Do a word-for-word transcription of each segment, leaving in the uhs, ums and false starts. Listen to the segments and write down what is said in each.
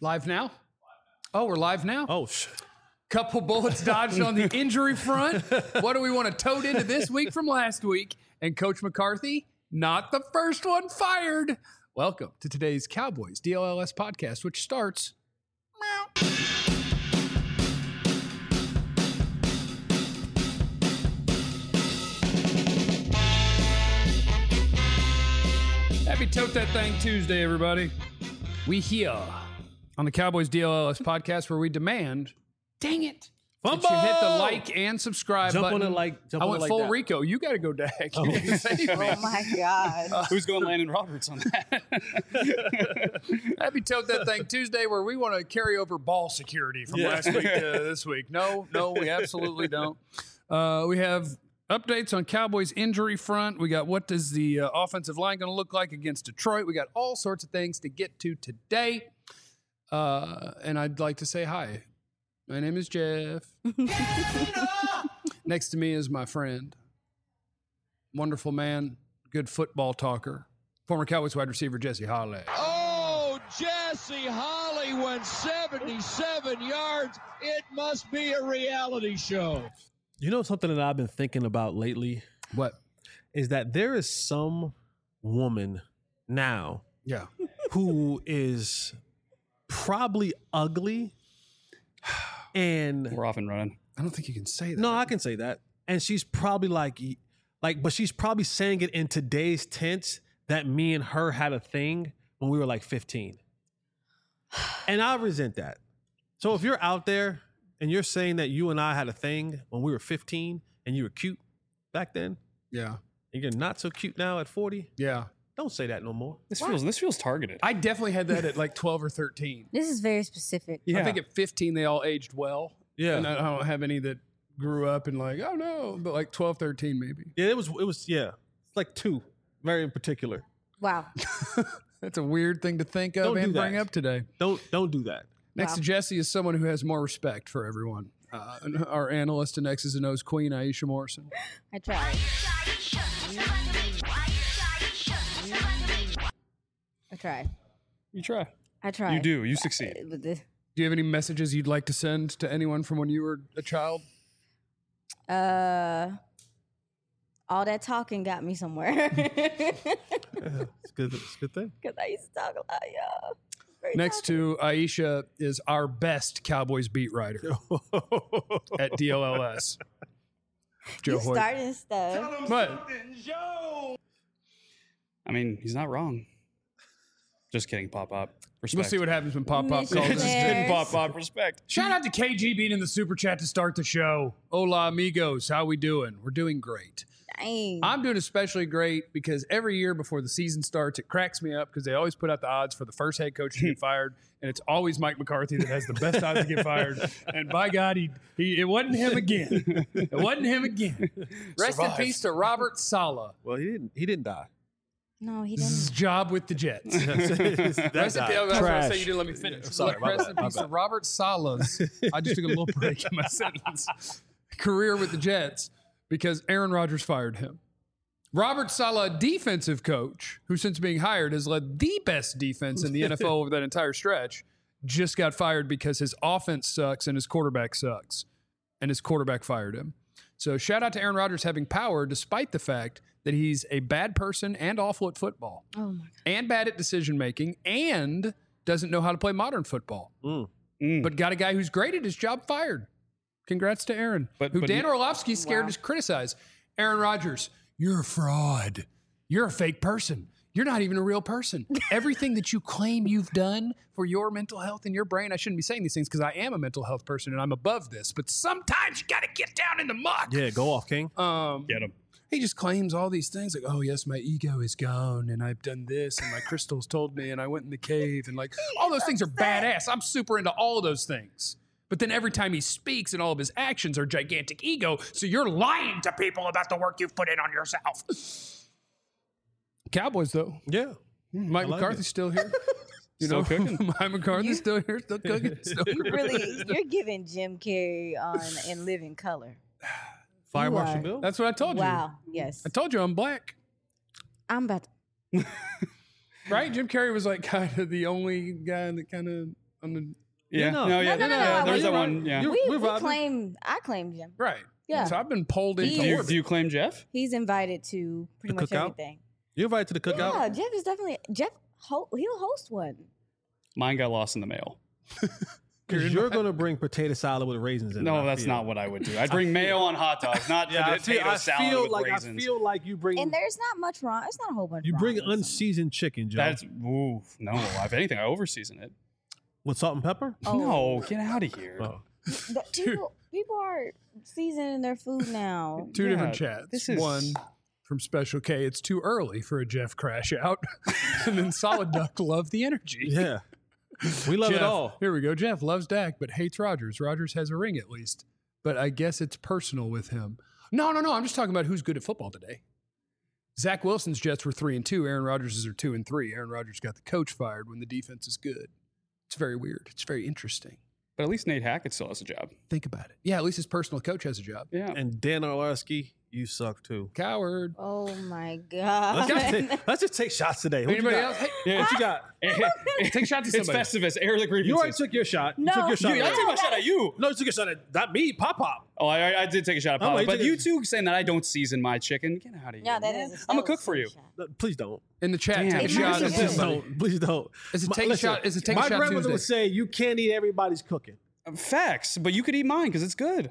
Live now? Oh, we're live now? Oh, shit. Couple bullets dodged on the injury front. What do we want to tote into this week from last week? And Coach McCarthy, not the first one fired. Welcome to today's Cowboys D L L S podcast, which starts... Meow. Happy Tote That Thing Tuesday, everybody. We here on the Cowboys D L L S podcast where we demand, dang it, that you hit the like and subscribe Jump button. on it like, jump I on went it like full that. Rico. You got to go Dak. Oh. Oh my God. Who's going Landon Roberts on that? Happy Tote That Thing Tuesday where we want to carry over ball security from Yeah. last week to this week. No, no, we absolutely don't. Uh, we have updates on Cowboys injury front. We got what does the uh, offensive line going to look like against Detroit. We got all sorts of things to get to today. Uh, and I'd like to say hi. My name is Jeff. Next to me is my friend, wonderful man, good football talker, former Cowboys wide receiver Jesse Holley. Oh, Jesse Holley went seventy-seven yards. It must be a reality show. You know something that I've been thinking about lately What? is that there is some woman now Yeah. who is probably ugly and We're off and running. I don't think you can say that. no, I can say that. And she's probably like, like, but she's probably saying it in today's tense that me and her had a thing when we were like fifteen. And I resent that. So if you're out there and you're saying that you and I had a thing when we were fifteen and you were cute back then, Yeah. and you're not so cute now at forty, Yeah. don't say that no more. This feels this feels targeted. I definitely had that at like twelve or thirteen. This is very specific. yeah. I think at fifteen, they all aged well. Yeah. And I don't have any that grew up and like, oh no, but like twelve, thirteen maybe. Yeah, it was, it was, yeah, it's like two, very in particular. Wow. That's a weird thing to think of Don't do and bring that. up today. Don't, don't do that. Next Wow. to Jesse is someone who has more respect for everyone. Uh, and our analyst and X's and O's queen, Aisha Morrison. I tried. I tried. you try. I tried. You do. You succeed. Uh, with the- Do you have any messages you'd like to send to anyone from when you were a child? Uh, all that talking got me somewhere. Yeah, it's good. It's a good thing. Because I used to talk a lot, y'all. Very Next to Aisha is our best Cowboys beat writer at D L L S. Joe you Hoyt. starting stuff. What? I mean, he's not wrong. Just kidding, Pop Pop. Respect. We'll see what happens when Pop Pop Mission calls Just us. Fair. kidding, Pop Pop. Respect. Shout out to K G being in the super chat to start the show. Hola, amigos. How we doing? We're doing great. Dang. I'm doing especially great because every year before the season starts, it cracks me up because they always put out the odds for the first head coach to get fired, and it's always Mike McCarthy that has the best odds to get fired. And by God, he, he it wasn't him again. It wasn't him again. Rest Survived. in peace to Robert Saleh. Well, he didn't. He didn't die. no, he His didn't. job with the Jets. That Rest in peace. died. That's what I was Trash. saying. You didn't let me finish. Sorry, my Rest bad, in my peace to bad. Robert Saleh's. I just took a little break in my sentence. Career with the Jets because Aaron Rodgers fired him. Robert Saleh, defensive coach, who since being hired has led the best defense in the N F L over that entire stretch, just got fired because his offense sucks and his quarterback sucks. And his quarterback fired him. So shout out to Aaron Rodgers having power despite the fact that he's a bad person and awful at football. Oh, my God. And bad at decision making and doesn't know how to play modern football. Mm. Mm. But got a guy who's great at his job fired. Congrats to Aaron, But- who but Dan you- Orlovsky's scared Wow. to criticize. Aaron Rodgers, you're a fraud. You're a fake person. You're not even a real person. Everything that you claim you've done for your mental health and your brain, I shouldn't be saying these things because I am a mental health person and I'm above this. But sometimes you got to get down in the muck. Yeah, go off, King. Um, Get him. he just claims all these things like, oh, yes, my ego is gone and I've done this and my crystals told me and I went in the cave and like all those things are badass. I'm super into all of those things. But then every time he speaks and all of his actions are gigantic ego. So you're lying to people about the work you've put in on yourself. Cowboys, though. Yeah. Mike I like McCarthy's it. still here. You Still know, cooking. Mike McCarthy's still here, still cooking. Still You cooking. really, you're giving Jim Carrey on In Living Color. Fire You Marshal are. Bill. That's what I told you. Wow. Yes. I told you I'm black. I'm about to. Right? Jim Carrey was like kind of the only guy that kind of On the Yeah, no. no, yeah, No, no, no, yeah. no, There's we- that one. Yeah. you- We, We're we vibing. claim. I claim Jim. right. Yeah. So I've been pulled into He Do you, orbit. do you claim Jeff? He's invited to pretty The much cookout? everything. You invited to the cookout? Yeah, Jeff is definitely Jeff. Ho- he'll host one. Mine got lost in the mail. Because you're going to bring potato salad with raisins in it. No, I that's feel. not what I would do. I'd bring mayo on hot dogs, not Yeah, I potato feel, I salad feel with like raisins. I feel like you bring And there's not much wrong. It's not a whole bunch. you wrong bring with something. unseasoned chicken, Joe. That's ooh, no. If anything, I overseason it. with salt and pepper. Oh. No, get out of here. Oh. The- people, people are seasoning their food now. Two Yeah, different chats. this is- One from Special K. It's too early for a Jeff crash out. And then Solid Duck love the energy. Yeah, we love Jeff, it all. Here we go. Jeff loves Dak, but hates Rodgers. Rodgers has a ring at least. But I guess it's personal with him. No, no, no. I'm just talking about who's good at football today. Zach Wilson's Jets were three and two. Aaron Rodgers' are two and three. Aaron Rodgers got the coach fired when the defense is good. It's very weird. It's very interesting. But at least Nate Hackett still has a job. Think about it. Yeah, at least his personal coach has a job. Yeah. And Dan Orlovsky, you suck too. Coward. Oh my Let's god! just take, let's just take shots today. What you Anybody got? else? Hey, Yeah. What you got? take shots at It's somebody. Festivus. Air the grievances. You already took your shot. You No. took your shot. Dude, I already. took my shot at you. No, you took your shot at not me, Pop Pop. Oh, I, I did take a shot at Oh, Papa. you but took you a- two saying that I don't season my chicken, get out of here. yeah, that man. is. I'm a that cook was for a you. shot. No, please don't. In the chat, Damn. take a It shot might at be Please good. somebody. don't. Please don't. Is it My- take a listen, shot? Is it take a my shot grandmother Tuesday? would say you can't eat everybody's cooking. Facts, but you could eat mine because it's good.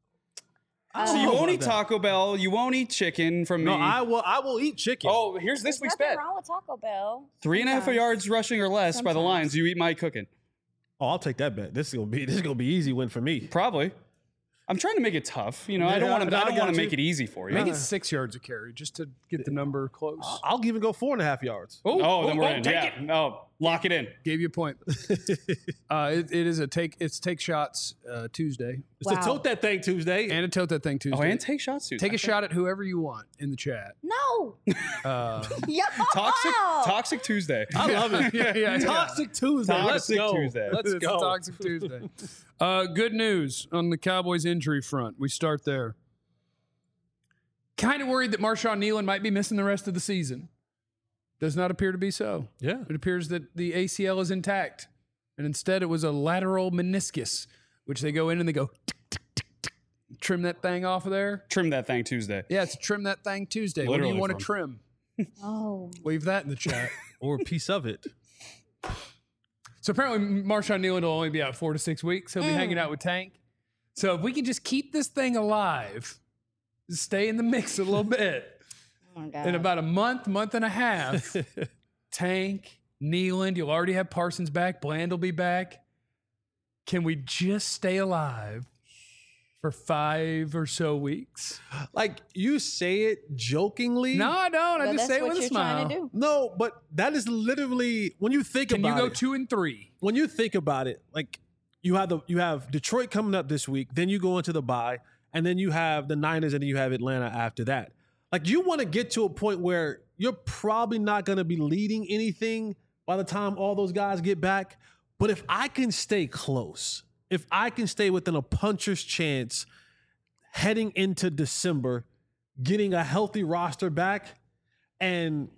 I So don't you know won't about eat that. Taco Bell. You won't eat chicken from me. No, I will. I will eat chicken. Oh, here's this There's week's nothing bet. wrong with Taco Bell. Three and a half Sometimes. yards rushing or less by the Sometimes. Lions. You eat my cooking. Oh, I'll take that bet. This is gonna be. This is gonna be easy win for me. Probably. I'm trying to make it tough. You know, I Yeah, don't want to. I I don't got want to you. make it easy for you. Make it six yards a carry just to get the number close. I'll even go four and a half yards. Oh, then we're oh, in. take Yeah. it. Oh, lock it in. Gave you a point. uh, it, it is a take. It's take shots uh, Tuesday It's to Wow. tote that thing Tuesday. and a tote that thing Tuesday. Oh, and take shots too. Take a shot at whoever you want in the chat. No. Uh, Yeah. Toxic. Toxic Tuesday. I love it. yeah, yeah, yeah. Toxic Tuesday. Let's Toxic go. Tuesday. Let's It's go. Toxic Tuesday. Uh, good news on the Cowboys injury front. We start there. Kind of worried that Marshawn Nealon might be missing the rest of the season. Does not appear to be so. Yeah. It appears that the A C L is intact. And instead, it was a lateral meniscus, which they go in and they go tick, tick, tick, tick, trim that thing off of there. Trim that thing Tuesday. Yeah, it's trim that thing Tuesday. what do Literally you want to from- trim? Oh. Leave that in the chat. Or a piece of it. So apparently, Marshawn Nealon will only be out four to six weeks. He'll be hanging out with Tank. So if we can just keep this thing alive, stay in the mix a little bit, Oh my god. in about a month, month and a half, Tank, Nealon, you'll already have Parsons back. Bland will be back. Can we just stay alive for five or so weeks? Like you say it jokingly. No, I don't. I But just that's say it what with a you're smile. trying to do. No, but that is literally when you think Can you about go it. two and three? when you think about it, like you have the you have Detroit coming up this week, then you go into the bye, and then you have the Niners, and then you have Atlanta after that. Like you want to get to a point where you're probably not going to be leading anything by the time all those guys get back. But if I can stay close, if I can stay within a puncher's chance heading into December, getting a healthy roster back, and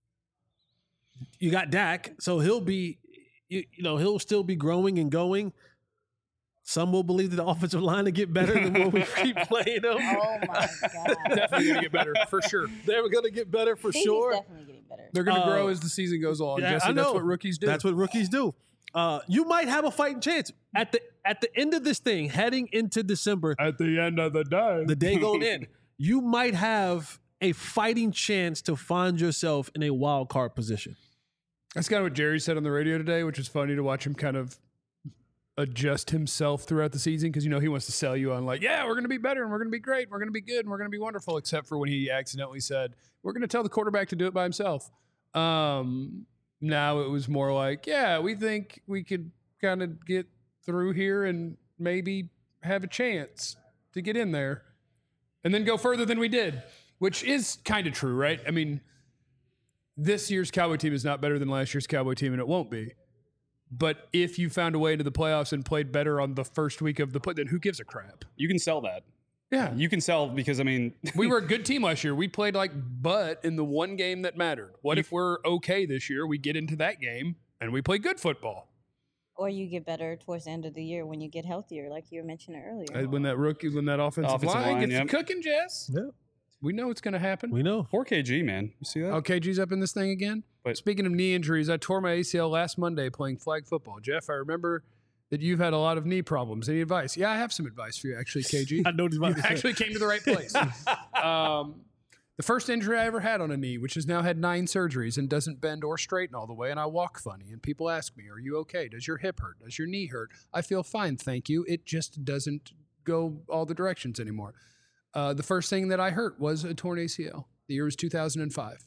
you got Dak, so he'll be, you, you know, he'll still be growing and going. Some will believe that the offensive line to get better the more we keep playing them. Oh my god. Definitely going to get better, for sure. They're going to get better for He's sure. definitely getting better. They're going to Uh, grow as the season goes on. Yeah, Jesse, I know. that's what rookies do. That's what rookies do. Uh, you might have a fighting chance at the at the end of this thing, heading into December, At the end of the day. the day going in. You might have a fighting chance to find yourself in a wild card position. That's kind of what Jerry said on the radio today, which is funny to watch him kind of adjust himself throughout the season because, you know, he wants to sell you on like, yeah, we're going to be better and we're going to be great and we're going to be good and we're going to be wonderful, except for when he accidentally said, we're going to tell the quarterback to do it by himself. Um, now it was more like, yeah, we think we could kind of get through here and maybe have a chance to get in there and then go further than we did, which is kind of true, right? I mean, this year's Cowboy team is not better than last year's Cowboy team, and it won't be. But if you found a way into the playoffs and played better on the first week of the play, then who gives a crap? You can sell that. Yeah. You can sell because, I mean, We were a good team last year. We played like butt in the one game that mattered. What if we're okay this year? We get into that game and we play good football. Or you get better towards the end of the year when you get healthier, like you were mentioning earlier. Uh, When that rookie, when that offensive, Offensive line, line, gets yep. to cooking, Jess, Yeah, we know it's going to happen. we know. four K G, man. You see that? Oh, K G's up in this thing again. But- Speaking of knee injuries, I tore my A C L last Monday playing flag football. Jeff, I remember that you've had a lot of knee problems. Any advice? Yeah, I have some advice for you, actually, K G. I know what he's about You to say. actually came to the right place. um, the first injury I ever had on a knee, which has now had nine surgeries and doesn't bend or straighten all the way, and I walk funny. And people ask me, "Are you okay? Does your hip hurt? Does your knee hurt?" I feel fine, thank you. It just doesn't go all the directions anymore. Uh, the first thing that I hurt was a torn A C L. The year was two thousand five.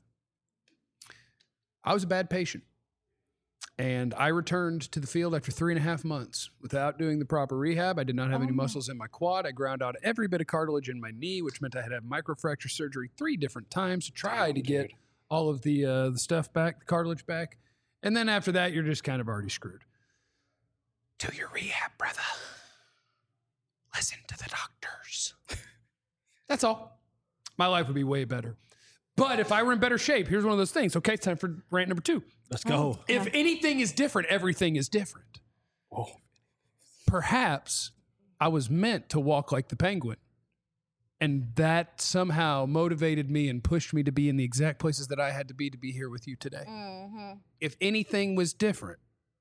I was a bad patient. And I returned to the field after three and a half months without doing the proper rehab. I did not have any Oh. muscles in my quad. I ground out every bit of cartilage in my knee, which meant I had to have microfracture surgery three different times to try Damn, to get dude. all of the uh, the stuff back, the cartilage back. And then after that, you're just kind of already screwed. Do your rehab, brother. Listen to the doctors. That's all. My life would be way better. But if I were in better shape, here's one of those things. Okay, it's time for rant number two. Let's go. If anything is different, everything is different. Perhaps I was meant to walk like the penguin. And that somehow motivated me and pushed me to be in the exact places that I had to be to be here with you today. Mm-hmm. If anything was different,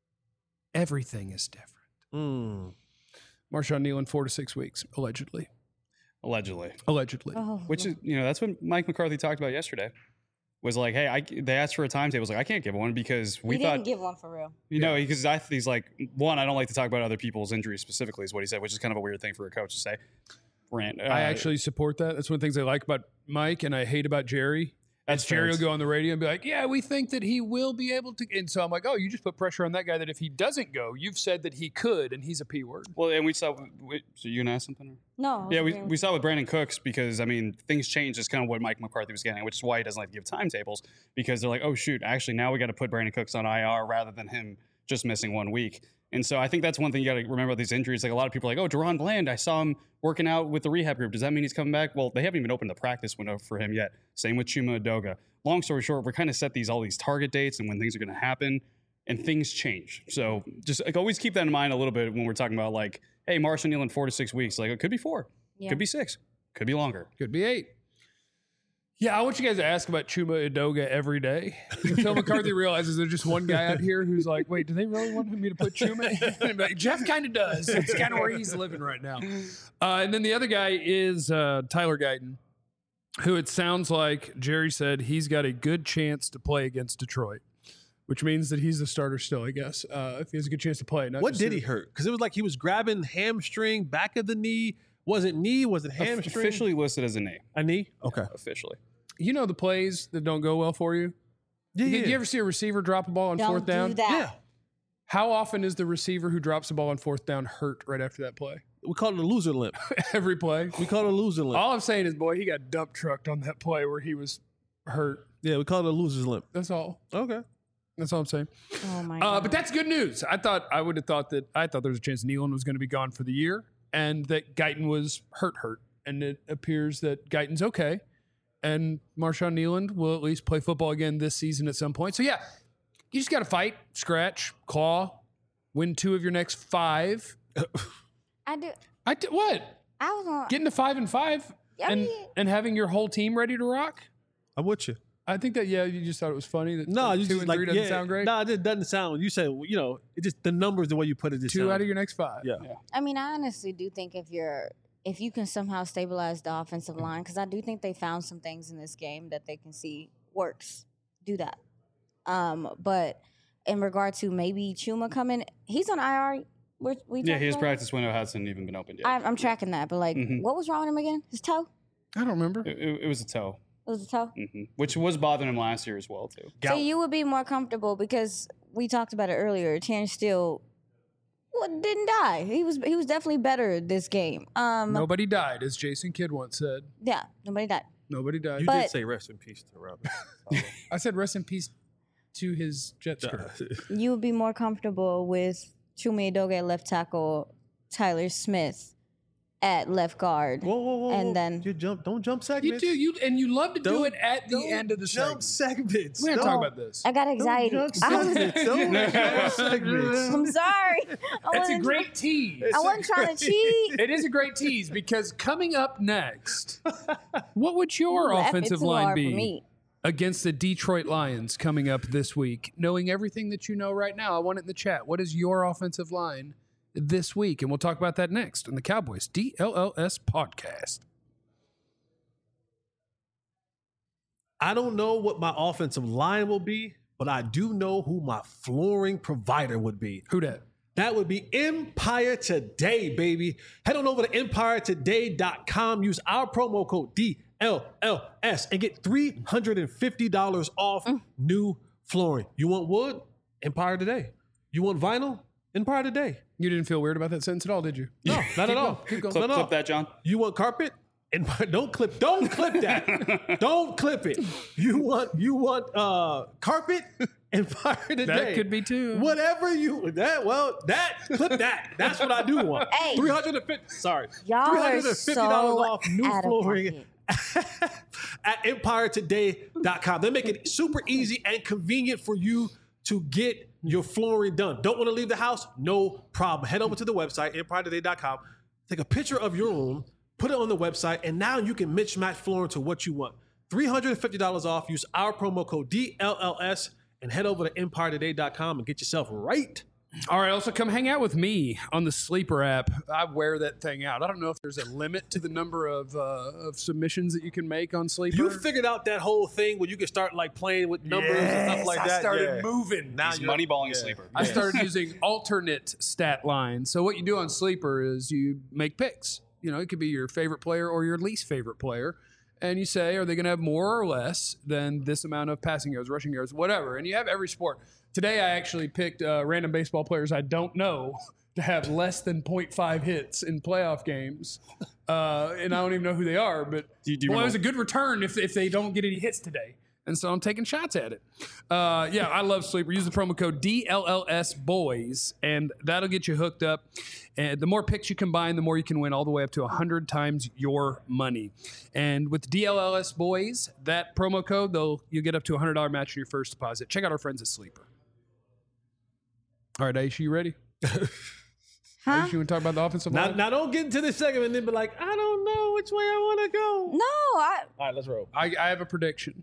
everything is different. Mm. Marshawn Nealon, four to six weeks, allegedly. Allegedly. Allegedly. Oh, Which is, you know, that's what Mike McCarthy talked about yesterday. Was like, hey, I, they asked for a timetable. I was like, I can't give one because we he thought, didn't give one for real. you know, because I he's like, one, I don't like to talk about other people's injuries specifically, is what he said, which is kind of a weird thing for a coach to say. Rant. Uh, I actually support that. That's one of the things I like about Mike and I hate about Jerry. That's Jerry fair. will go on the radio and be like, yeah, we think that he will be able to. And so I'm like, oh, you just put pressure on that guy that if he doesn't go, you've said that he could, and he's a P word. Well, and we saw. Wait, so you gonna ask something? Or? No. I was Yeah, we, agreeing we saw with Brandon Cooks because, I mean, things changed is kind of what Mike McCarthy was getting at, which is why he doesn't like to give timetables because they're like, oh, shoot, actually, now we got to put Brandon Cooks on I R rather than him just missing one week. And so I think that's one thing you got to remember about these injuries. Like a lot of people are like, oh, Deron Bland, I saw him working out with the rehab group. Does that mean he's coming back? Well, they haven't even opened the practice window for him yet. Same with Chuma Edoga. Long story short, we're kind of set these all these target dates and when things are going to happen, and things change. So just like always keep that in mind a little bit when we're talking about like, hey, Marshawn Nealon, four to six weeks. Like it could be four, Yeah. could be six, could be longer. Could be eight. Yeah, I want you guys to ask about Chuma Edoga every day until McCarthy realizes there's just one guy out here who's like, wait, do they really want me to put Chuma in? And be like, Jeff kind of does. It's kind of where he's living right now. Uh, and then the other guy is uh, Tyler Guyton, who it sounds like Jerry said he's got a good chance to play against Detroit, which means that he's the starter still, I guess, uh, if he has a good chance to play. Not What just did a- he hurt? Because it was like he was grabbing hamstring, back of the knee. Was it knee? Was it hamstring? Officially listed as a knee. A knee? Okay. Officially. You know the plays that don't go well for you? Yeah, Did yeah. you ever see a receiver drop a ball on Don't fourth down? do that. Yeah. How often is the receiver who drops the ball on fourth down hurt right after that play? We call it a loser limp. Every play. We call it a loser limp. All I'm saying is, boy, he got dump trucked on that play where he was hurt. Yeah, we call it a loser's limp. That's all. Okay. That's all I'm saying. Oh my Uh, god. but that's good news. I thought I would have thought that I thought there was a chance Nealon was going to be gone for the year, and that Guyton was hurt, hurt, and it appears that Guyton's okay, and Marshawn Nealon will at least play football again this season at some point. So yeah, you just got to fight, scratch, claw, win two of your next five. I do. I d- what? I was on. Getting to five and five, I and mean- and having your whole team ready to rock. I'm with you. I think that yeah, you just thought it was funny that No, like, you two just and like three doesn't yeah, sound great. No, it doesn't sound. You said you know it just the numbers the way you put it. Just Two sound- out of your next five. Yeah. I mean, I honestly do think if you're if you can somehow stabilize the offensive line, because I do think they found some things in this game that they can see works. Do that. Um, but in regard to maybe Chuma coming, he's on I R. We're, we Yeah, talked his about practice window hasn't even been opened yet. it? I, I'm tracking that, but like, Mhm. what was wrong with him again? His toe? I don't remember. It, it- it was a toe, It was a toe. hmm which was bothering him last year as well too. So you would be more comfortable because we talked about it earlier. Terrence Steele well, didn't die. He was he was definitely better this game. Um, Nobody died, as Jason Kidd once said. yeah, nobody died. Nobody died. You But- did say rest in peace to Robert. I said rest in peace to his Jets career. You would be more comfortable with Chuma Edoga at left tackle, Tyler Smith at left guard. Whoa, whoa, whoa! And whoa. then- you jump. Don't jump You segments. do you and you love to do Don't- it at the don't end of the jump segment. segments. We're gonna Don't- talk about this. I got anxiety. Don't jump I was, segments. Don't jump segments. I'm sorry. I It's a wasn't- great tease. I wasn't trying to cheat. It is a great tease because coming up next, what would your Laugh it offensive too line hard for be me. against the Detroit Lions coming up this week? Knowing everything that you know right now, I want it in the chat. What is your offensive line this week? And we'll talk about that next on the Cowboys D L L S podcast. I don't know what my offensive line will be, but I do know who my flooring provider would be. Who dat? That would be Empire Today, baby. Head on over to empire today dot com. Use our promo code D L L S and get three hundred fifty dollars off Mm. new flooring. You want wood? Empire Today. You want vinyl? Empire Today. You didn't feel weird about that sentence at all, did you? No, not at all. Keep going. No, Clip, no. clip that, John. You want carpet? And don't clip, don't clip that. Don't clip it. You want you want uh carpet and fire today. That could be too. Whatever you that well that clip that. That's what I do want. Hey. Three hundred and fifty. Sorry, Y'all three are hundred and fifty dollars so off new out of flooring pocket. at empire today dot com. They make it super easy and convenient for you to get your flooring done. Don't want to leave the house? No problem. Head over to the website, empire today dot com. Take a picture of your room, put it on the website, and now you can mix match flooring to what you want. three hundred fifty dollars off. Use our promo code D L L S and head over to empire today dot com and get yourself right. All right, also come hang out with me on the Sleeper app. I wear that thing out. I don't know if there's a limit to the number of uh, of submissions that you can make on Sleeper. You figured out that whole thing where you can start like playing with numbers and stuff like I that. started Yeah. moving. Now He's you're- moneyballing yeah. Sleeper. I started using alternate stat lines. So what you do on Sleeper is you make picks. You know, it could be your favorite player or your least favorite player. And you say, are they going to have more or less than this amount of passing yards, rushing yards, whatever. And you have every sport. Today, I actually picked uh, random baseball players I don't know to have less than point five hits in playoff games. Uh, and I don't even know who they are. But Do you- do you well, it remember- was a good return if, if they don't get any hits today. And so I'm taking shots at it. Uh, yeah, I love Sleeper. Use the promo code D L L S boys, and that'll get you hooked up. And the more picks you combine, the more you can win, all the way up to one hundred times your money. And with D L L S boys, that promo code, they'll you'll get up to a one hundred dollars match on your first deposit. Check out our friends at Sleeper. All right, Aisha, you ready? Huh? Aisha, you want to talk about the offensive Now, line? now don't get into this segment and then be like, I don't know which way I want to go. No, I. All right, let's roll. I, I have a prediction.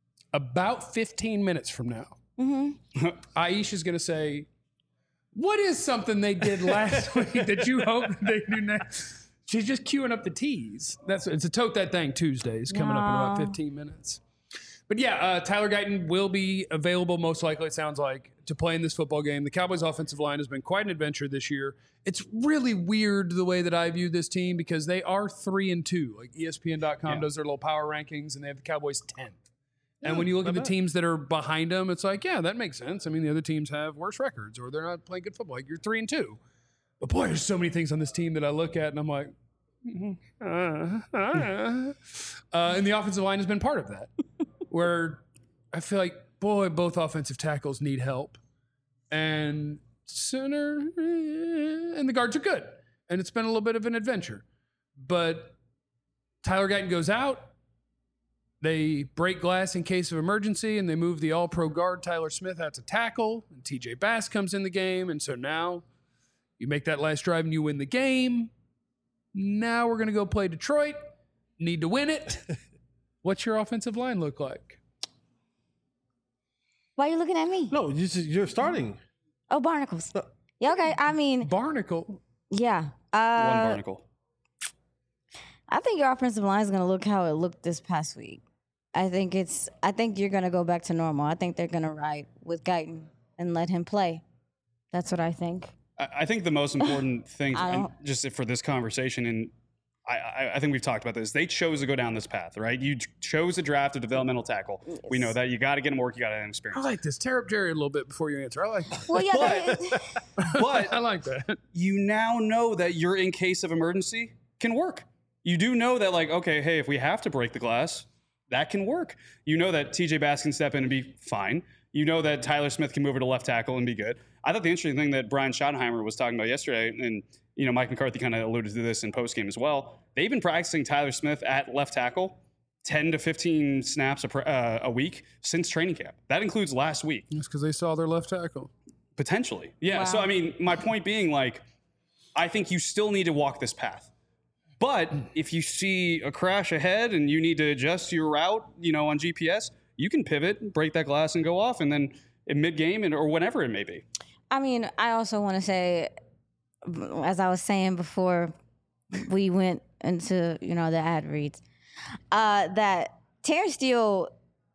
About fifteen minutes from now, Mm-hmm. Aisha's going to say, what is something they did last week that you hope they do next? She's just queuing up the teas. That's It's a Tote That Thing Tuesdays coming up in about No. fifteen minutes. But yeah, uh, Tyler Guyton will be available, most likely, it sounds like, to play in this football game. The Cowboys' offensive line has been quite an adventure this year. It's really weird the way that I view this team because they are three and two. Like E S P N dot com Yeah. does their little power rankings, and they have the Cowboys tenth. And when you look not at the bad. teams that are behind them, it's like, yeah, that makes sense. I mean, the other teams have worse records or they're not playing good football. Like, you're three and two. But boy, there's so many things on this team that I look at and I'm like, mhm, uh, uh. Uh, and the offensive line has been part of that. Where I feel like, boy, both offensive tackles need help. And center eh, and the guards are good. And it's been a little bit of an adventure. But Tyler Guyton goes out. They break glass in case of emergency, and they move the all-pro guard Tyler Smith out to tackle, and T J Bass comes in the game, and so now you make that last drive and you win the game. Now we're going to go play Detroit. Need to win it. What's your offensive line look like? Why are you looking at me? No, you just, you're starting. Oh, barnacles. Yeah, okay. I mean, Barnacle. yeah. One Uh, barnacle. I think your offensive line is going to look how it looked this past week. I think it's. I think you're going to go back to normal. I think they're going to ride with Guyton and let him play. That's what I think. I I think the most important thing, I and don't- just for this conversation, and I, I, I think we've talked about this. They chose to go down this path, right? You ch- chose to draft a developmental tackle. We know that you got to get him work. You got to have I experience. like this. Tear up Jerry a little bit before you answer. I like that. Well, yeah. But- they- But I like that. you now know that your in case of emergency can work. You do know that, like, okay, hey, if we have to break the glass, that can work. You know that T J Bass can step in and be fine. You know that Tyler Smith can move it to left tackle and be good. I thought the interesting thing that Brian Schottenheimer was talking about yesterday, and you know, Mike McCarthy kind of alluded to this in postgame as well. They've been practicing Tyler Smith at left tackle ten to fifteen snaps a, pr- uh, a week since training camp. That includes last week. It's because they saw their left tackle. Potentially. Yeah. Wow. So, I mean, my point being, like, I think you still need to walk this path. But if you see a crash ahead and you need to adjust your route, you know, on G P S, you can pivot, break that glass and go off, and then in mid-game and, or whenever it may be. I mean, I also want to say, as I was saying before we went into, you know, the ad reads, uh, that Terrence Steele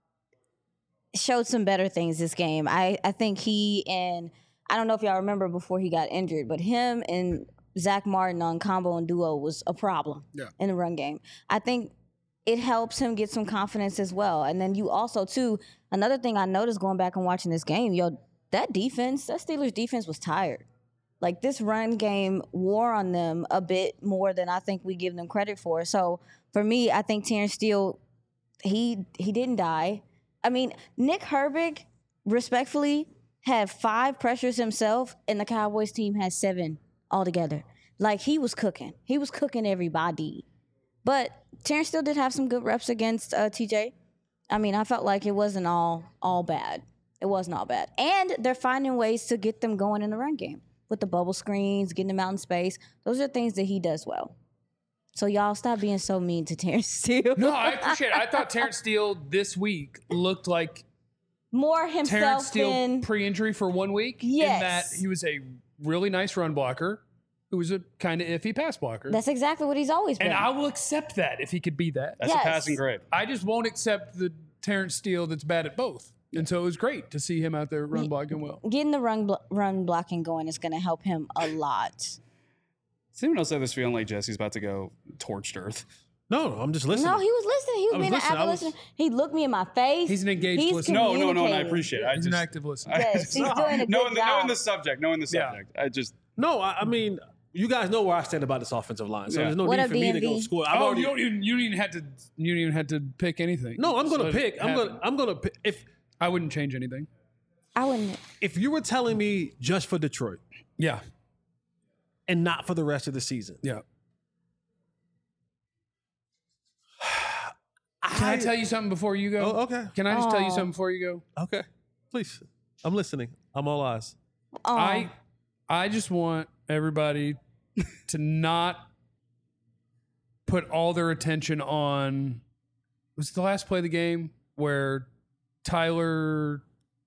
showed some better things this game. I, I think he and, I don't know if y'all remember before he got injured, but him and Zach Martin on combo and duo was a problem Yeah. in the run game. I think it helps him get some confidence as well. And then you also, too, another thing I noticed going back and watching this game, yo, that defense, that Steelers defense was tired. Like, this run game wore on them a bit more than I think we give them credit for. So, for me, I think Terrence Steele, he he didn't die. I mean, Nick Herbig, respectfully, had five pressures himself, and the Cowboys team had seven altogether. Like, he was cooking. He was cooking everybody. But Terrence still did have some good reps against uh, T J. I mean, I felt like it wasn't all all bad. It wasn't all bad. And they're finding ways to get them going in the run game with the bubble screens, getting them out in space. Those are things that he does well. So y'all stop being so mean to Terrence Steele. No, I appreciate it. I thought Terrence Steele this week looked like More himself Terrence Steele than... pre-injury for one week. Yes. In that he was a really nice run blocker who was a kind of iffy pass blocker. That's exactly what he's always been. And I will accept that if he could be that. That's Yes. a passing grade. I just won't accept the Terrence Steele that's bad at both. And so it was great to see him out there run blocking well. Getting the run blo- run blocking going is going to help him a lot. Does anyone else have this feeling like Jesse's about to go torched earth? No, no, I'm just listening. No, he was listening. He was, I was being listening. an I active was- listener. He looked me in my face. He's an engaged He's listener. No, no, no, and I communicating. appreciate it. I He's just, an active listener. Yes, he's doing a good knowing, the, job. knowing the subject, knowing the Yeah. subject. I just, No, I, I mean, you guys know where I stand about this offensive line, so Yeah. there's no What need up, for me to D M go V? score. I've Oh, already, you don't even you don't even have to you don't even have to pick anything. no, I'm Just gonna let it pick. I'm happen. gonna. I'm gonna pick. If I wouldn't change anything. I wouldn't. if you were telling me just for Detroit Yeah. and not for the rest of the season, Yeah. Can I tell you something before you go? Oh, okay. Can I just tell you Aw. something before you go? Okay, please. I'm listening. I'm all eyes. Oh, I I just want everybody to not put all their attention on was it the last play of the game where Tyler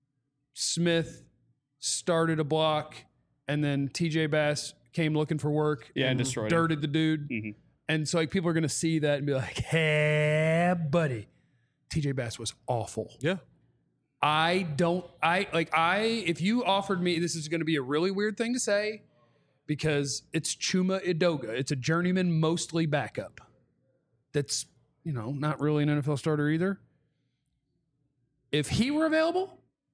Smith started a block and then T J Bass came looking for work Yeah, and destroyed him. dirted the dude. Mhm. And so like people are gonna see that and be like, hey buddy, T J Bass was awful. Yeah. I don't, I like, I, if you offered me, this is going to be a really weird thing to say because it's Chuma Idoga. It's a journeyman, mostly backup. That's, you know, not really an N F L starter either. If he were available,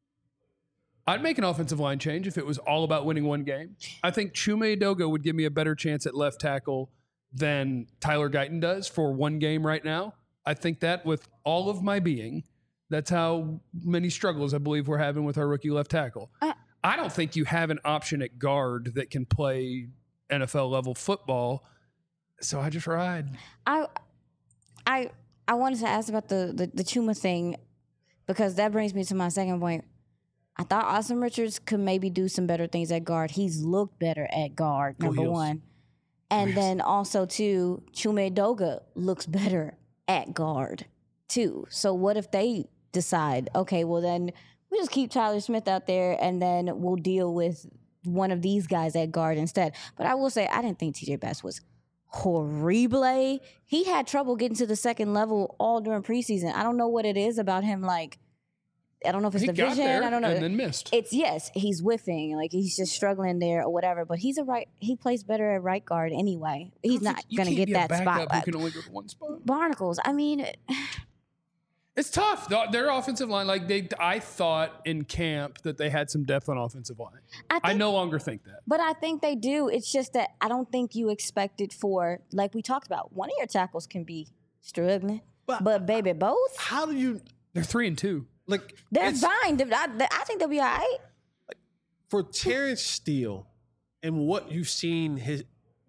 I'd make an offensive line change if it was all about winning one game. I think Chuma Idoga would give me a better chance at left tackle than Tyler Guyton does for one game right now. I think that with all of my being. That's how many struggles I believe we're having with our rookie left tackle. Uh, I don't think you have an option at guard that can play N F L level football. So I just ride. I, I, I wanted to ask about the, the the Chuma thing because that brings me to my second point. I thought Austin Richards could maybe do some better things at guard. He's looked better at guard, Go number Heels. one. And Yes. then also, too, Chuma Edoga looks better at guard, too. So what if they decide, okay, well, then we just keep Tyler Smith out there and then we'll deal with one of these guys at guard instead. But I will say, I didn't think T J Bass was horrible. He had trouble getting to the second level all during preseason. I don't know what it is about him, like, I don't know if it's He the got vision. there I don't know. and then missed. It's yes, he's whiffing, like he's just struggling there or whatever. But he's a right. He plays better at right guard anyway. He's not You going to can't get be a that backup spotlight. who can only go to one spot. Barnacles. I mean, It's tough. The- Their offensive line, like they, I thought in camp that they had some depth on offensive line. I, I think, no longer think that. but I think they do. It's just that I don't think you expect it for, like we talked about. One of your tackles can be struggling, But- but, baby, both How do you They're three and two. like? they're it's- fine. I, I think they'll be all right. for Terrence Steele and what you've seen his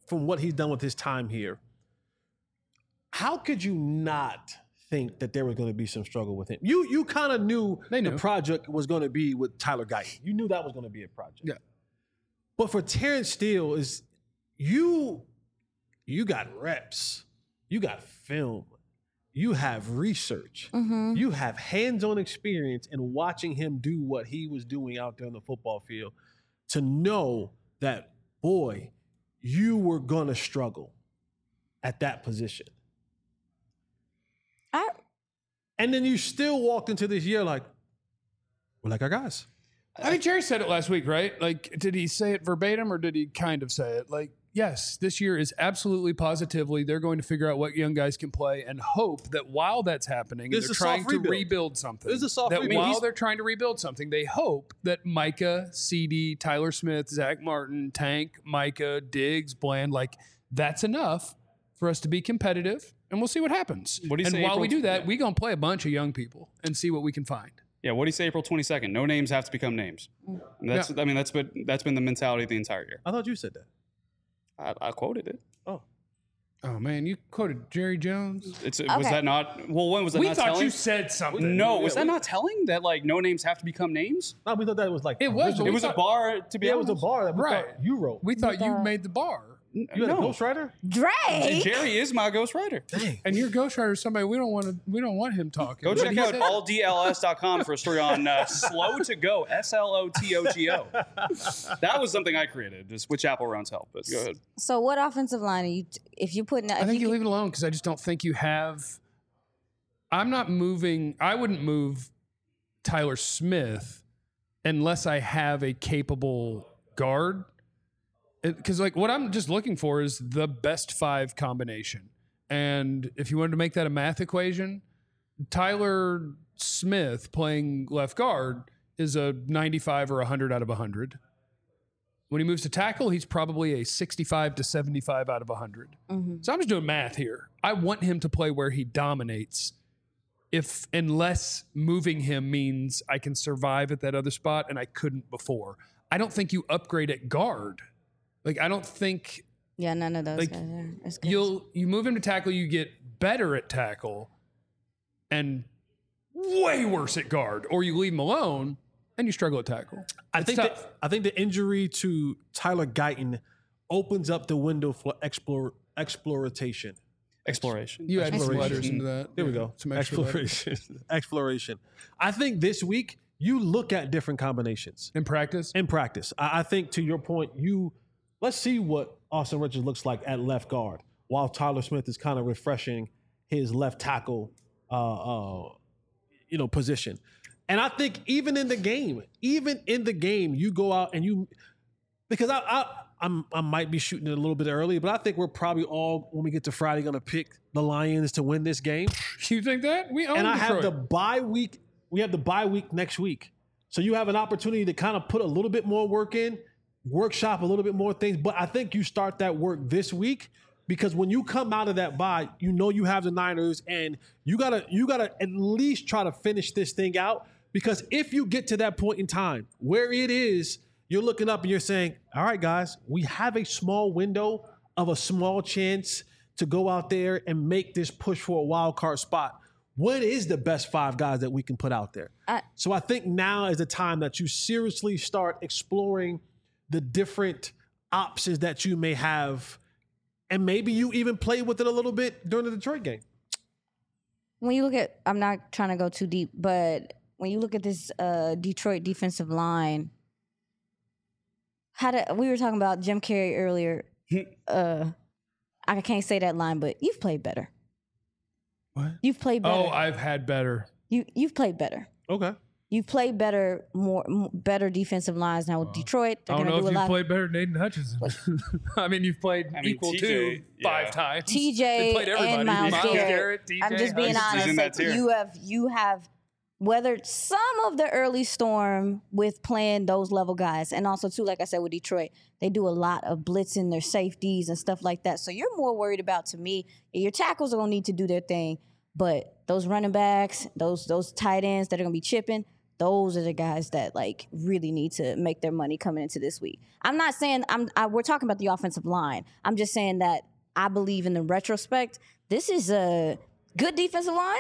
from what he's done with his time here, how could you not think that there was going to be some struggle with him? You you kind of knew They the knew. project was going to be with Tyler Guyton. You knew that was going to be a project. Yeah. But for Terrence Steele, is you you got reps, you got film, you have research, Mm-hmm. you have hands-on experience in watching him do what he was doing out there on the football field to know that, boy, you were going to struggle at that position. I And then you still walked into this year like, we're like our guys. I think Jerry said it last week, right? Like, did he say it verbatim or did he kind of say it? Like, yes, this year is absolutely positively they're going to figure out what young guys can play and hope that while that's happening, This and is they're a trying soft to rebuild. rebuild something. This is a soft that rebuild. while He's- they're trying to rebuild something, they hope that Micah, C D, Tyler Smith, Zach Martin, Tank, Micah, Diggs, Bland, like that's enough for us to be competitive, and we'll see what happens. What do you and say, while April- we do that, yeah. we gonna play a bunch of young people and see what we can find. Yeah, what do you say April twenty-second? No names have to become names. And that's I mean that's been that's been the mentality of the entire year. I thought you said that. I, I quoted it. Oh. Oh man, you quoted Jerry Jones. It's was Okay. that not well when was that We not thought telling? you said something. no, was Yeah, that we- not telling that like no names have to become names? No, we thought that was like It was, original. but It we was a thought- bar to be Yeah, it was a honest. bar that we Right. thought you wrote. We thought you thought- made the bar. You had a no. ghostwriter? Drake. Jerry is my ghostwriter. Dang. And your ghostwriter is somebody we don't want to. We don't want him talking. Go But check he out said- all D L S dot com for a story on uh, slow to go, S L O T O G O. That was something I created, just with Chapel Roun's help. But go ahead. So what offensive line are you? If you're putting, I if think you you leave it alone because I just don't think you have. I'm not moving. I wouldn't move Tyler Smith unless I have a capable guard. Because like what I'm just looking for is the best five combination. And if you wanted to make that a math equation, Tyler Smith playing left guard is a ninety-five or one hundred out of one hundred. When he moves to tackle, he's probably a sixty-five to seventy-five out of one hundred. Mhm. So I'm just doing math here. I want him to play where he dominates. If unless moving him means I can survive at that other spot and I couldn't before. I don't think you upgrade at guard. Like I don't think yeah, none of those like, guys are. That's good. you'll you move him to tackle, you get better at tackle and way worse at guard, or you leave him alone and you struggle at tackle. I It's think tough. that, I think the injury to Tyler Guyton opens up the window for explore exploration. Exploration. You add some Exploration. letters into that. There we Yeah, go. Some extra letters. Exploration. Exploration. I think this week you look at different combinations In practice. in practice. I, I think to your point, you let's see what Austin Richards looks like at left guard while Tyler Smith is kind of refreshing his left tackle, uh, uh, you know, position. And I think even in the game, even in the game, you go out and you because I I I'm, I might be shooting it a little bit early, but I think we're probably all when we get to Friday going to pick the Lions to win this game. You think that? We own And I have Detroit. the bye week. We have the bye week next week. So you have an opportunity to kind of put a little bit more work in, workshop a little bit more things. But I think you start that work this week because when you come out of that bye, you know you have the Niners and you gotta you gotta at least try to finish this thing out. Because if you get to that point in time where it is, you're looking up and you're saying, all right, guys, we have a small window of a small chance to go out there and make this push for a wild card spot. What is the best five guys that we can put out there? I- So I think now is the time that you seriously start exploring the different options that you may have. And maybe you even play with it a little bit during the Detroit game. when you look at, I'm not trying to go too deep, but when you look at this uh, Detroit defensive line, how did we were talking about Jim Carrey earlier? uh, I can't say that line, but you've played better. What? You've played better. Oh, I've had better. you you've played better. Okay. You've played better, more m- better defensive lines now with Detroit. They're I don't gonna know do if a you've lot. played better than Aiden Hutchinson. I mean, you've played I mean, equal T J, to five yeah. times. T They J played everybody. and Miles, Miles Garrett. Garrett, T J I'm just being He's- he's honest. in Like that tier. you have you have weathered some of the early storm with playing those level guys, and also too, like I said with Detroit, they do a lot of blitzing their safeties and stuff like that. So you're more worried about, to me, your tackles are gonna need to do their thing, but those running backs, those those tight ends that are gonna be chipping, those are the guys that like really need to make their money coming into this week. I'm not saying I'm. I, we're talking about the offensive line. I'm just saying that I believe in the retrospect. This is a good defensive line,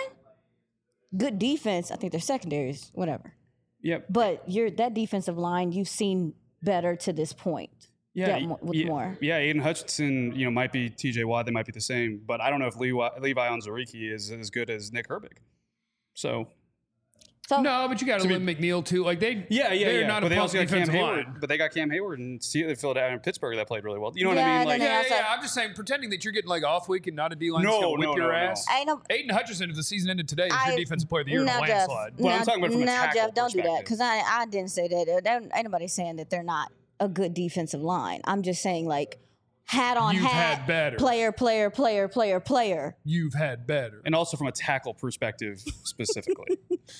good defense. I think their secondaries, whatever. Yep. But you're that defensive line. You've seen better to this point. Yeah, Yeah, with yeah, more. Yeah, Aiden Hutchinson, you know, might be T J Watt. They might be the same, but I don't know if Levi, Levi Onwuzurike is as good as Nick Herbig. So So No, but you got to Lynn McNeil too. Like they, yeah, yeah, they're yeah. not but a they punk also got Cam defensive Hayward. line. But they got Cam Hayward and Philadelphia and Pittsburgh that played really well. You know what Yeah, I mean? and Like, then Yeah, also- yeah. I'm just saying, pretending that you're getting like off week and not a D line No, going to whip no, your no, no. ass. I know. Aiden Hutchinson, if the season ended today, is I- your defensive player of the year in a now, Jeff, landslide. Well, I'm now, talking about from a now, tackle Jeff, don't do that perspective. because I, I didn't say that. There, ain't nobody saying that they're not a good defensive line. I'm just saying like hat on You've hat, had better. player, player, player, player, player. You've had better. and also from a tackle perspective specifically.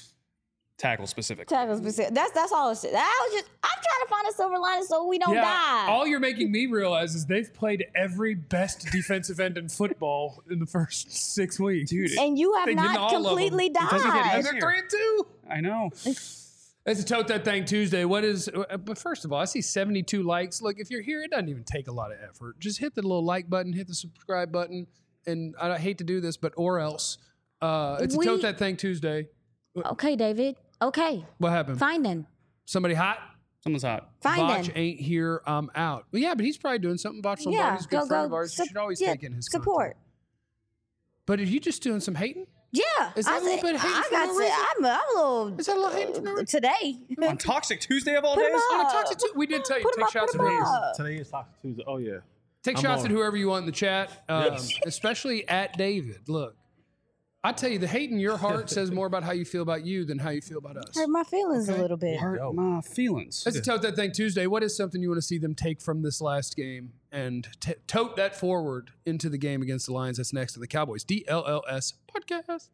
Tackle specifically. Tackles, that's that's all. It's, I was just I'm trying to find a silver lining so we don't die. all you're making me realize is they've played every best defensive end in football in the first six weeks. Dude, and you have they didn't not all of them. completely It doesn't get died. and they're three and two. I know. It's a Tote That Thing Tuesday. What is, uh, but first of all, I see seventy-two likes. Look, if you're here, it doesn't even take a lot of effort. Just hit the little like button, hit the subscribe button. And I hate to do this, but or else. Uh, it's We- a Tote That Thing Tuesday. Okay, David. Okay, What happened? fine then. Somebody hot? Someone's hot. Fine Botch then. ain't here. I'm out. Well, yeah, but he's probably doing something. Botch Yeah, Lombardi's a good go friend go. of ours. You sup- should always yeah, take in his support. content. But are you just doing some hating? Yeah, Is that I a little said- bit hating I for got no to. reason? I'm, a- I'm a little. Is that a little hating for no reason? Today. On Toxic Tuesday of all Put days? him On a up. Toxic Tu- we did tell you Put 'em take up, shots put at 'em haters. up. Today is Toxic Tuesday. Oh yeah. Take I'm shots on. at whoever you want in the chat, um, Yes. especially at David. Look, I tell you, the hate in your heart says more about how you feel about you than how you feel about us. Hurt my feelings a little bit. Hurt my feelings. Let's Tote That Thing Tuesday. What is something you want to see them take from this last game and t- tote that forward into the game against the Lions that's next to the Cowboys? D L L S Podcast.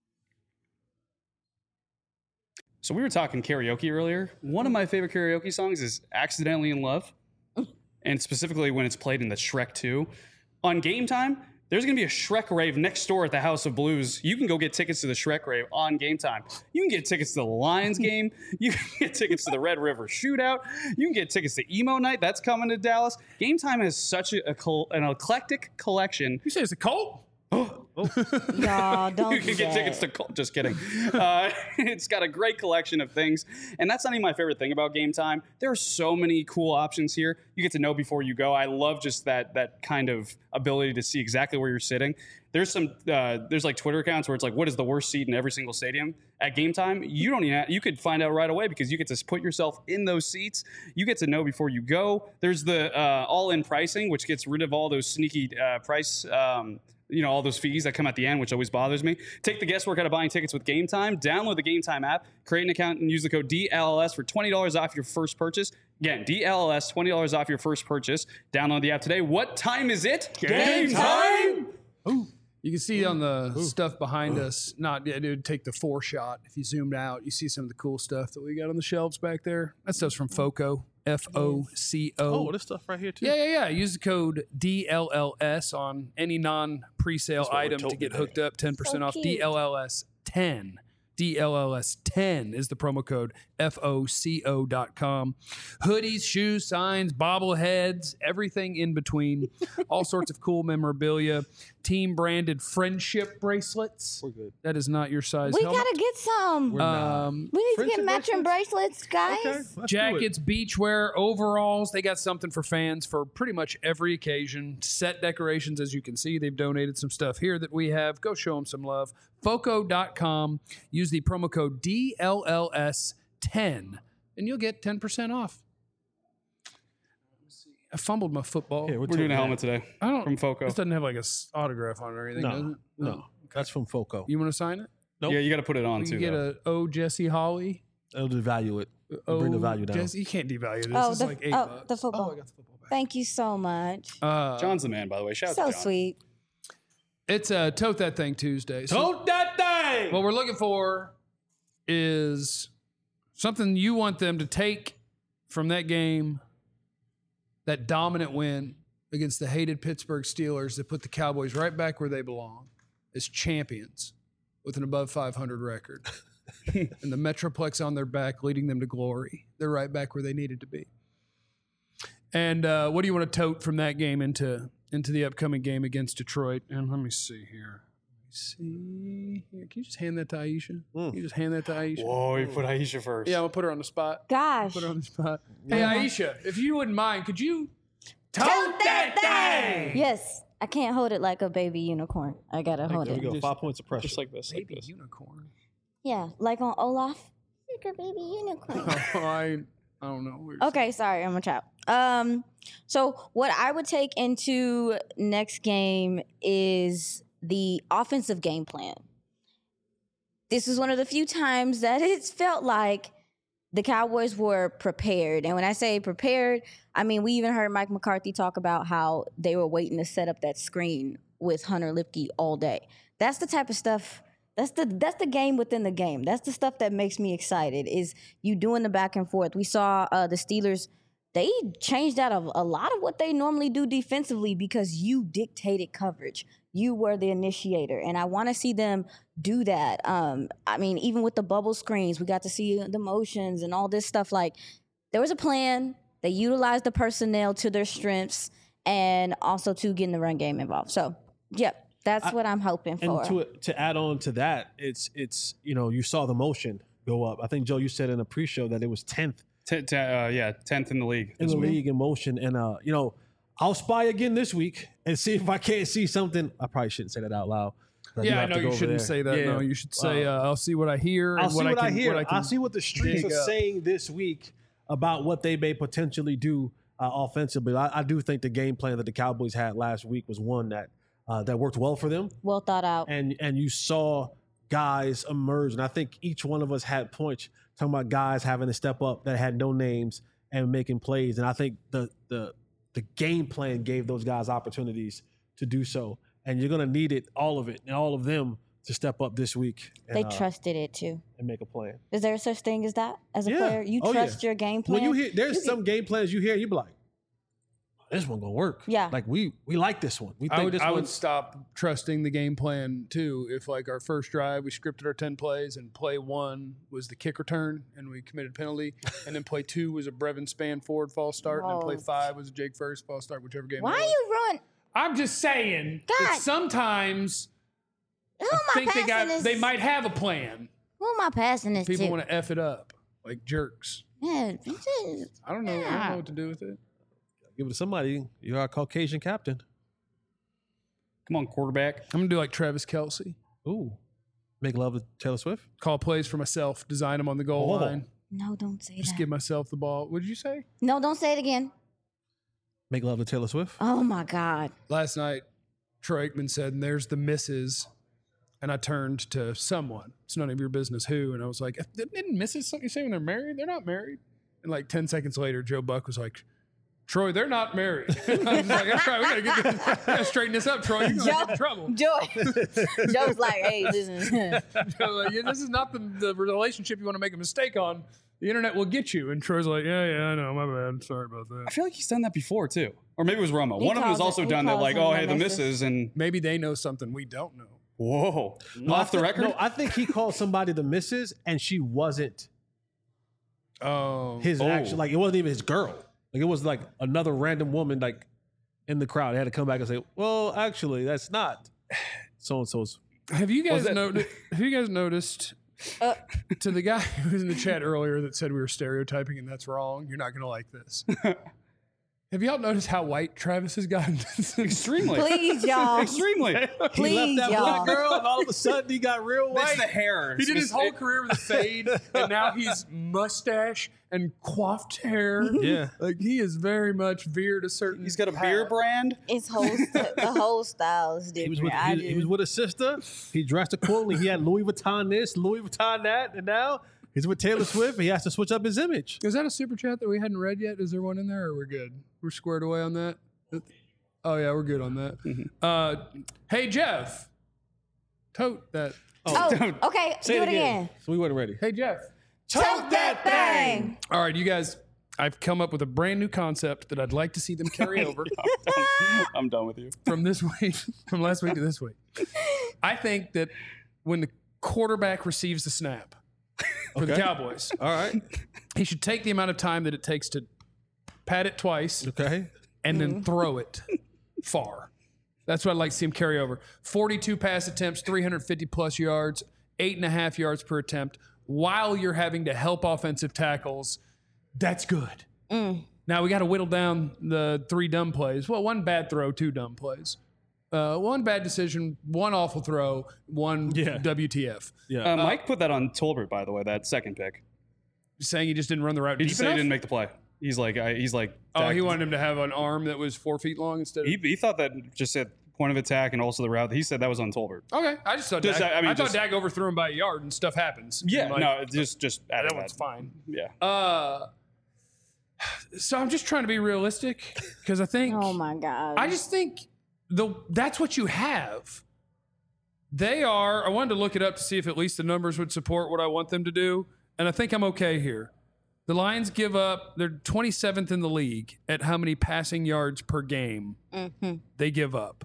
So we were talking karaoke earlier. One of my favorite karaoke songs is Accidentally in Love. And specifically when it's played in the Shrek two. On Game Time, there's going to be a Shrek rave next door at the House of Blues. You can go get tickets to the Shrek rave on Game Time. You can get tickets to the Lions game. You can get tickets to the Red River Shootout. You can get tickets to Emo Night. That's coming to Dallas. Game Time has such a, a col- an eclectic collection. You say it's a cult? Y'all don't You do can get that. tickets to Col- just kidding. Uh, it's got a great collection of things, and that's not even my favorite thing about Game Time. There are so many cool options here. You get to know before you go. I love just that that kind of ability to see exactly where you're sitting. There's some uh, there's like Twitter accounts where it's like, what is the worst seat in every single stadium? At Game Time, you don't even have, you could find out right away because you get to put yourself in those seats. You get to know before you go. There's the uh, all-in pricing, which gets rid of all those sneaky uh, price. Um, you know, all those fees that come at the end, which always bothers me. Take the guesswork out of buying tickets with Game Time. Download the Game Time app, create an account, and use the code D L L S for twenty dollars off your first purchase. Again, D L L S, twenty dollars off your first purchase. Download the app today. What time is it? Game time! You can see on the stuff behind us, not, it would take the four shot. If you zoomed out, you see some of the cool stuff that we got on the shelves back there. That stuff's from FOCO, F O C O. Oh, this stuff right here too. Yeah, yeah, yeah. Use the code D L L S on any non-presale what we're item to told get today. hooked up. ten percent So off. cute. D L L S ten. D L L S ten is the promo code. F O C O dot com. Hoodies, shoes, signs, bobbleheads, everything in between. All sorts of cool memorabilia. Team branded friendship bracelets. We're good. That is not your size We helmet. gotta get some. We're not. Um, We need to Friendship get matching bracelets, guys. Okay, let's do it. Jackets, beachwear, overalls. They got something for fans for pretty much every occasion. Set decorations, as you can see. They've donated some stuff here that we have. Go show them some love. Foco dot com. Use the promo code D L L S ten, and you'll get ten percent off. I fumbled my football. Here, We're doing a helmet today I don't. from Foco. This doesn't have like a s- autograph on it or anything, does No, it? no, that's from Foco. You want to sign it? Nope. Yeah, you got to put it on We too. can get though. a O Jesse Holly. It'll devalue it. O Bring the value down. Jesse, you can't devalue this. Oh, it's the- like eight oh, bucks. the football. Oh, I got the football back. Thank you so much. Uh, John's the man, by the way. Shout out So to John. sweet. It's a Tote That Thing Tuesday. So Tote that thing. what we're looking for is something you want them to take from that game, that dominant win against the hated Pittsburgh Steelers that put the Cowboys right back where they belong as champions with an above five hundred record. and the Metroplex on their back, leading them to glory. They're right back where they needed to be. And uh, what do you want to tote from that game into into the upcoming game against Detroit? And let me see here. Let me see here. Can you just hand that to Aisha? Mm. Can you just hand that to Aisha? Whoa, you put Aisha first. Yeah, I'm gonna put her on the spot. Gosh. Put her on the spot. Hey, Yeah. Aisha, if you wouldn't mind, could you tote Tote that thing? Yes. I can't hold it like a baby unicorn. I gotta hold There we it. go. Just- Five points of pressure. Just like this, like Baby this. unicorn. Yeah, like on Olaf. Like a baby unicorn. Oh, I, I don't know. We're- Okay, sorry, I'm a child. Um, so what I would take into next game is the offensive game plan. This is one of the few times that it's felt like the Cowboys were prepared. And when I say prepared, I mean, we even heard Mike McCarthy talk about how they were waiting to set up that screen with Hunter Lipke all day. That's the type of stuff. That's the that's the game within the game. That's the stuff that makes me excited. Is you doing the back and forth. We saw uh, the Steelers. They changed out of a lot of what they normally do defensively because you dictated coverage. You were the initiator, and I want to see them do that. Um, I mean, even with the bubble screens, we got to see the motions and all this stuff. Like there was a plan. They utilized the personnel to their strengths, and also to getting the run game involved. So, yep. That's I- what I'm hoping for. And to to add on to that, it's it's you know you saw the motion go up. I think Joe, you said in a pre-show that it was tenth T- t- uh, yeah, tenth in the league. in this the week. league in motion, and uh you know I'll spy again this week and see if I can't see something. I probably shouldn't say that out loud. do Yeah, I have know to go you over shouldn't there. say that. Yeah. No, you should say, Uh, uh, I'll see what I hear. I'll and see what, what I, can, hear. What I can I'll see what the streets dig are up. saying this week about what they may potentially do uh, offensively. I, I do think the game plan that the Cowboys had last week was one that uh, that worked well for them. well thought out. and and you saw guys emerge, and I think each one of us had points talking about guys having to step up that had no names and making plays, and I think the the the game plan gave those guys opportunities to do so, and you're gonna need it, all of it, and all of them to step up this week. And, They uh, trusted it too. and make a plan. Is there such thing as that as a Yeah. player? You Oh, trust yeah. your game plan. When you hear, there's You some game plans you hear, you be like, this one gonna work. Yeah. like we we like this one. We think I would, this I one. would stop trusting the game plan too. If like our first drive, we scripted our ten plays, and play one was the kick return, and we committed a penalty, and then play two was a Brevin Span forward false start, and then play Whoa. five was a Jake First false start, whichever game. Why it are was. you ruin? I'm just saying that God. sometimes Who I am I think they passing got this? they might have a plan. Who am I passing this People to? want to f it up like jerks. Yeah, this is- I don't know. I don't Yeah. know what to do with it. Give it to somebody. You're our Caucasian captain. Come on, quarterback. I'm gonna do like Travis Kelsey. Ooh, make love to Taylor Swift. Call plays for myself, design them on the goal Oh. line. No, don't say Just that. give myself the ball. What did you say? No, don't say it again. Make love to Taylor Swift. Oh my God. Last night, Troy Aikman said, and there's the misses. And I turned to someone. It's none of your business who. And I was like, didn't misses something you say when they're married? They're not married. And like ten seconds later, Joe Buck was like, Troy, they're not married. I was like, that's right. We gotta get this, we gotta straighten this up, Troy. You're gonna get in trouble. Joe. Joe's like, hey, listen. Joe, like, yeah, this is not the, the relationship you want to make a mistake on. The internet will get you. And Troy's like, yeah, yeah, I know. My bad. Sorry about that. I feel like he's done that before too, or maybe it was Romo. He One of them has calls also it- he done that, calls like, them oh, the hey, the misses. misses, and Maybe they know something we don't know. whoa, No, off I the think- record. No, I think he called somebody the missus, and she wasn't Oh, his Oh. actual. Like it wasn't even his girl. Like it was like another random woman, like in the crowd. They had to come back and say, "Well, actually, that's not so and so's." have you guys that- noticed? Have you guys noticed? Uh. To the guy who was in the chat earlier that said we were stereotyping and that's wrong, you're not going to like this. Have y'all noticed how white Travis has gotten? Extremely, Please, y'all. extremely. Please, he left that y'all. black girl, and all of a sudden he got real It's white. the hair. He did his It's- whole career with a fade, and now he's mustache and coiffed hair. Yeah. Like he is very much veered a certain. He's got a beer path. brand. It's whole st- the whole style is different. He was with I he, he was just- with his sister. He dressed accordingly. He had Louis Vuitton this, Louis Vuitton that, and now he's with Taylor Swift. He has to switch up his image. Is that a super chat that we hadn't read yet? Is there one in there, or we're good? We're squared away on that. Oh yeah, we're good on that. Uh, hey Jeff, tote that. Oh, Don't- okay. Say do it it again. So we weren't ready. Hey Jeff. Tote that thing. All right, you guys. I've come up with a brand new concept that I'd like to see them carry over I'm done with you. from this week, from last week to this week. I think that when the quarterback receives the snap, for Okay. the Cowboys. All right. He should take the amount of time that it takes to pat it twice Okay. and then throw it far. That's what I'd like to see him carry over. forty-two pass attempts, three hundred fifty plus yards, eight and a half yards per attempt, while you're having to help offensive tackles. That's good. Mm. Now we got to whittle down the three dumb plays. Well, one bad throw, two dumb plays. Uh, one bad decision, one awful throw, one Yeah. W T F. Yeah. Uh, Mike put that on Tolbert, by the way, that second pick. Saying he just didn't run the route He deep just said he enough? didn't make the play. He's like, I, he's like, Oh, he Dak- wanted him to have an arm that was four feet long instead of. He, he thought that just said point of attack and also the route. He said that was on Tolbert. Okay, I just thought Just, Dak, I I, mean, thought just- Dak overthrew him by a yard and stuff happens. Yeah, And, like, no, it's just just added that one's that. fine. Yeah. Uh, so I'm just trying to be realistic because I think Oh my God. I just think the that's what you have. They are. I wanted to look it up to see if at least the numbers would support what I want them to do, and I think I'm okay here. The Lions give up. They're twenty-seventh in the league at how many passing yards per game Mm-hmm. they give up.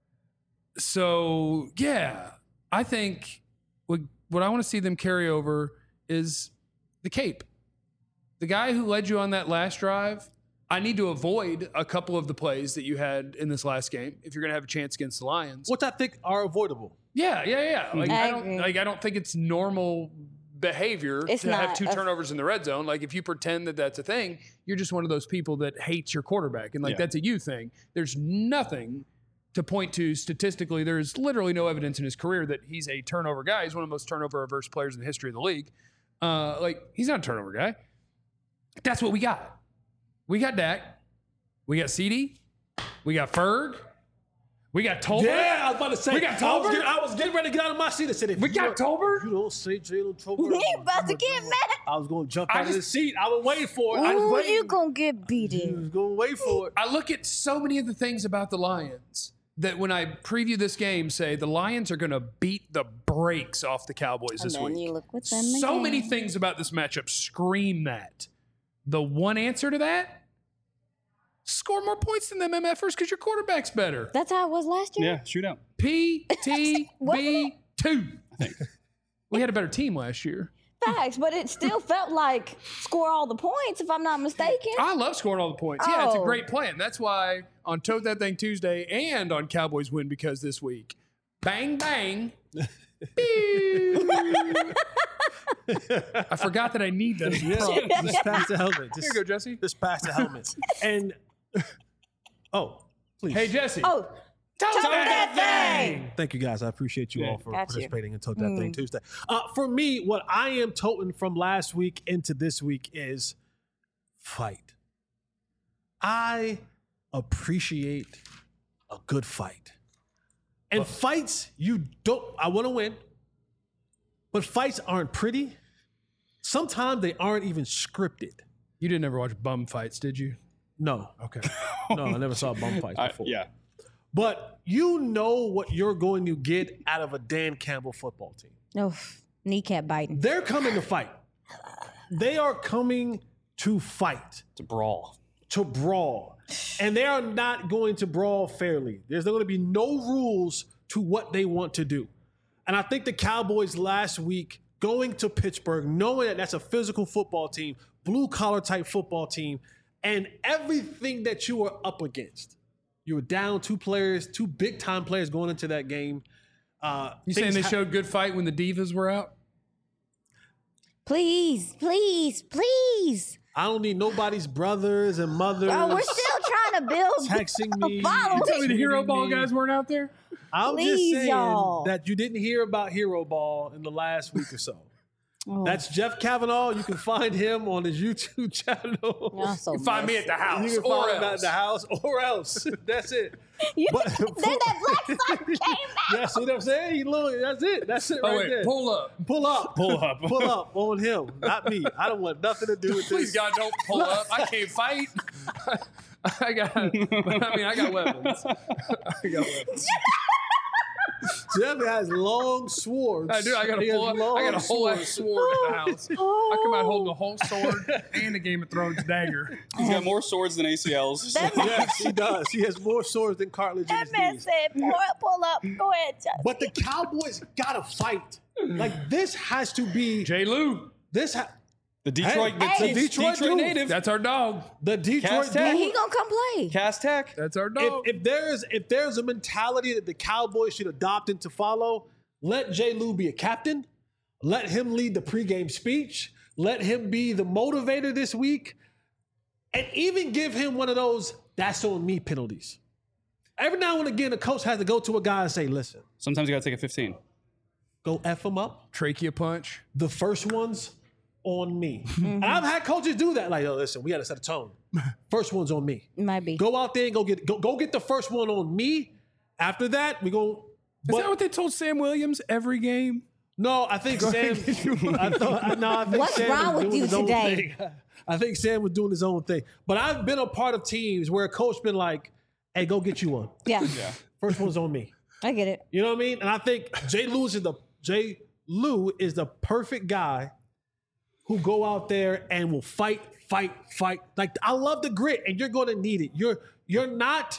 So yeah, I think what what I want to see them carry over is the cape. The guy who led you on that last drive, I need to avoid a couple of the plays that you had in this last game if you're going to have a chance against the Lions. Which I think are avoidable. Yeah, yeah, yeah. Like I I, don't agree. like I don't think it's normal behavior It's to have not two a- turnovers in the red zone. Like if you pretend that that's a thing, you're just one of those people that hates your quarterback and like Yeah. that's a you thing. There's nothing to point to statistically. There's literally no evidence in his career that he's a turnover guy. He's one of the most turnover averse players in the history of the league. Uh, like he's not a turnover guy. That's what we got. We got Dak. We got C D. We got Ferg. We got Tolbert. Yeah, I was about to say. We got I was, Tolbert? getting, I was getting ready to get out of my seat and said, if We you got don't- Tolbert? if you don't say Jalen Tolbert. You I'm- about I'm to gonna get do it. mad. I was going to jump I out of the just- seat. I was waiting for it. I was Ooh, waiting. you gonna get I beaten. was going to wait for it. I look at so many of the things about the Lions that when I preview this game say the Lions are going to beat the brakes off the Cowboys And this then week. you look with them So again. many things about this matchup scream that. The one answer to that, score more points than them MFers because your quarterback's better. That's how it was last year. Yeah, shootout. P T Wasn't B two. We had a better team last year. Facts, but it still felt like score all the points, if I'm not mistaken. I love scoring all the points. Yeah, it's a Oh. great plan. That's why on Tote That Thing Tuesday and on Cowboys Win Because this week, bang, bang. Pew. I forgot that I need that. as a prompt. Just pass the helmet. Just, Here you go, Jesse. Just pass the helmet. And, oh, please. Hey, Jesse. Oh, Tote that thing. Thank you guys. I appreciate you Yeah. all for Got you. participating in Tote That Thing Tuesday. Uh, for me, what I am toting from last week into this week is fight. I appreciate a good fight. And fights, you don't, I want to win, but fights aren't pretty. Sometimes they aren't even scripted. You didn't ever watch bum fights, did you? No. Okay. No, I never saw bum fights I, before. yeah. But you know what you're going to get out of a Dan Campbell football team. no, kneecap biting. They're coming to fight. They are coming to fight, It's a brawl. to brawl. And they are not going to brawl fairly. There's going to be no rules to what they want to do. And I think the Cowboys last week going to Pittsburgh, knowing that that's a physical football team, blue collar type football team, and everything that you are up against. You were down two players, two big time players going into that game. Uh, You saying things they ha- showed good fight when the Divas were out? Please, please, please. I don't need nobody's brothers and mothers Bro, we're still trying to build texting me. following. Tell me the hero tweeting ball me. guys weren't out there? I'm Please, just saying y'all. that you didn't hear about Hero Ball in the last week or so. Oh, That's Jeff Kavanaugh. You can find him on his YouTube channel. y'all so Find me messy. at the house. You can or find him else. at the house or else. That's it. You, But- then that black sock came out. Yeah, see what I'm saying? He look, that's it. That's it Oh, right wait. there. Pull up. Pull up. Pull up. Pull up on him, not me. I don't want nothing to do with Please, this. God, don't pull up. I can't fight. I got, I mean, I got weapons. I got weapons. Jeff has long swords. I do. I got a He has full. I long got a whole ass swords. sword in the house. I come out holding a whole sword and a Game of Thrones dagger. He's got more swords than A C Ls. That man, Yes, he does. He has more swords than cartilage in that his man knees. said, pull up, pull up. Go ahead, Justin. But the Cowboys gotta fight. Like this has to be J. Lou. this. Ha- The Detroit, the, Hey. the Detroit Detroit, dude. native, That's our dog. the Detroit Cast And dude. he gonna come play. Cass Tech. That's our If, dog. if there's if there's a mentality that the Cowboys should adopt and to follow, let J. Lou be a captain. Let him lead the pregame speech. Let him be the motivator this week, and even give him one of those "that's on me" penalties. Every now and again, the coach has to go to a guy and say, "Listen, Sometimes you got to take a fifteen. go f him up." Trachea punch. The first one's on me. And I've had coaches do that. Like, oh, listen, we got to set a tone. First one's on me. Might be. Go out there and go get go, go get the first one on me. After that, we go. Is that what they told Sam Williams every game? No, I think Sam. I thought, I, no, I think What's Sam wrong was with doing you his own today? thing. I think Sam was doing his own thing. But I've been a part of teams where a coach been like, "Hey, go get you one. Yeah, First one's on me." I get it. You know what I mean? And I think Jay Lewis is the Jay Lou is the perfect guy who go out there and will fight, fight, fight. Like I love the grit, and you're going to need it. You're you're not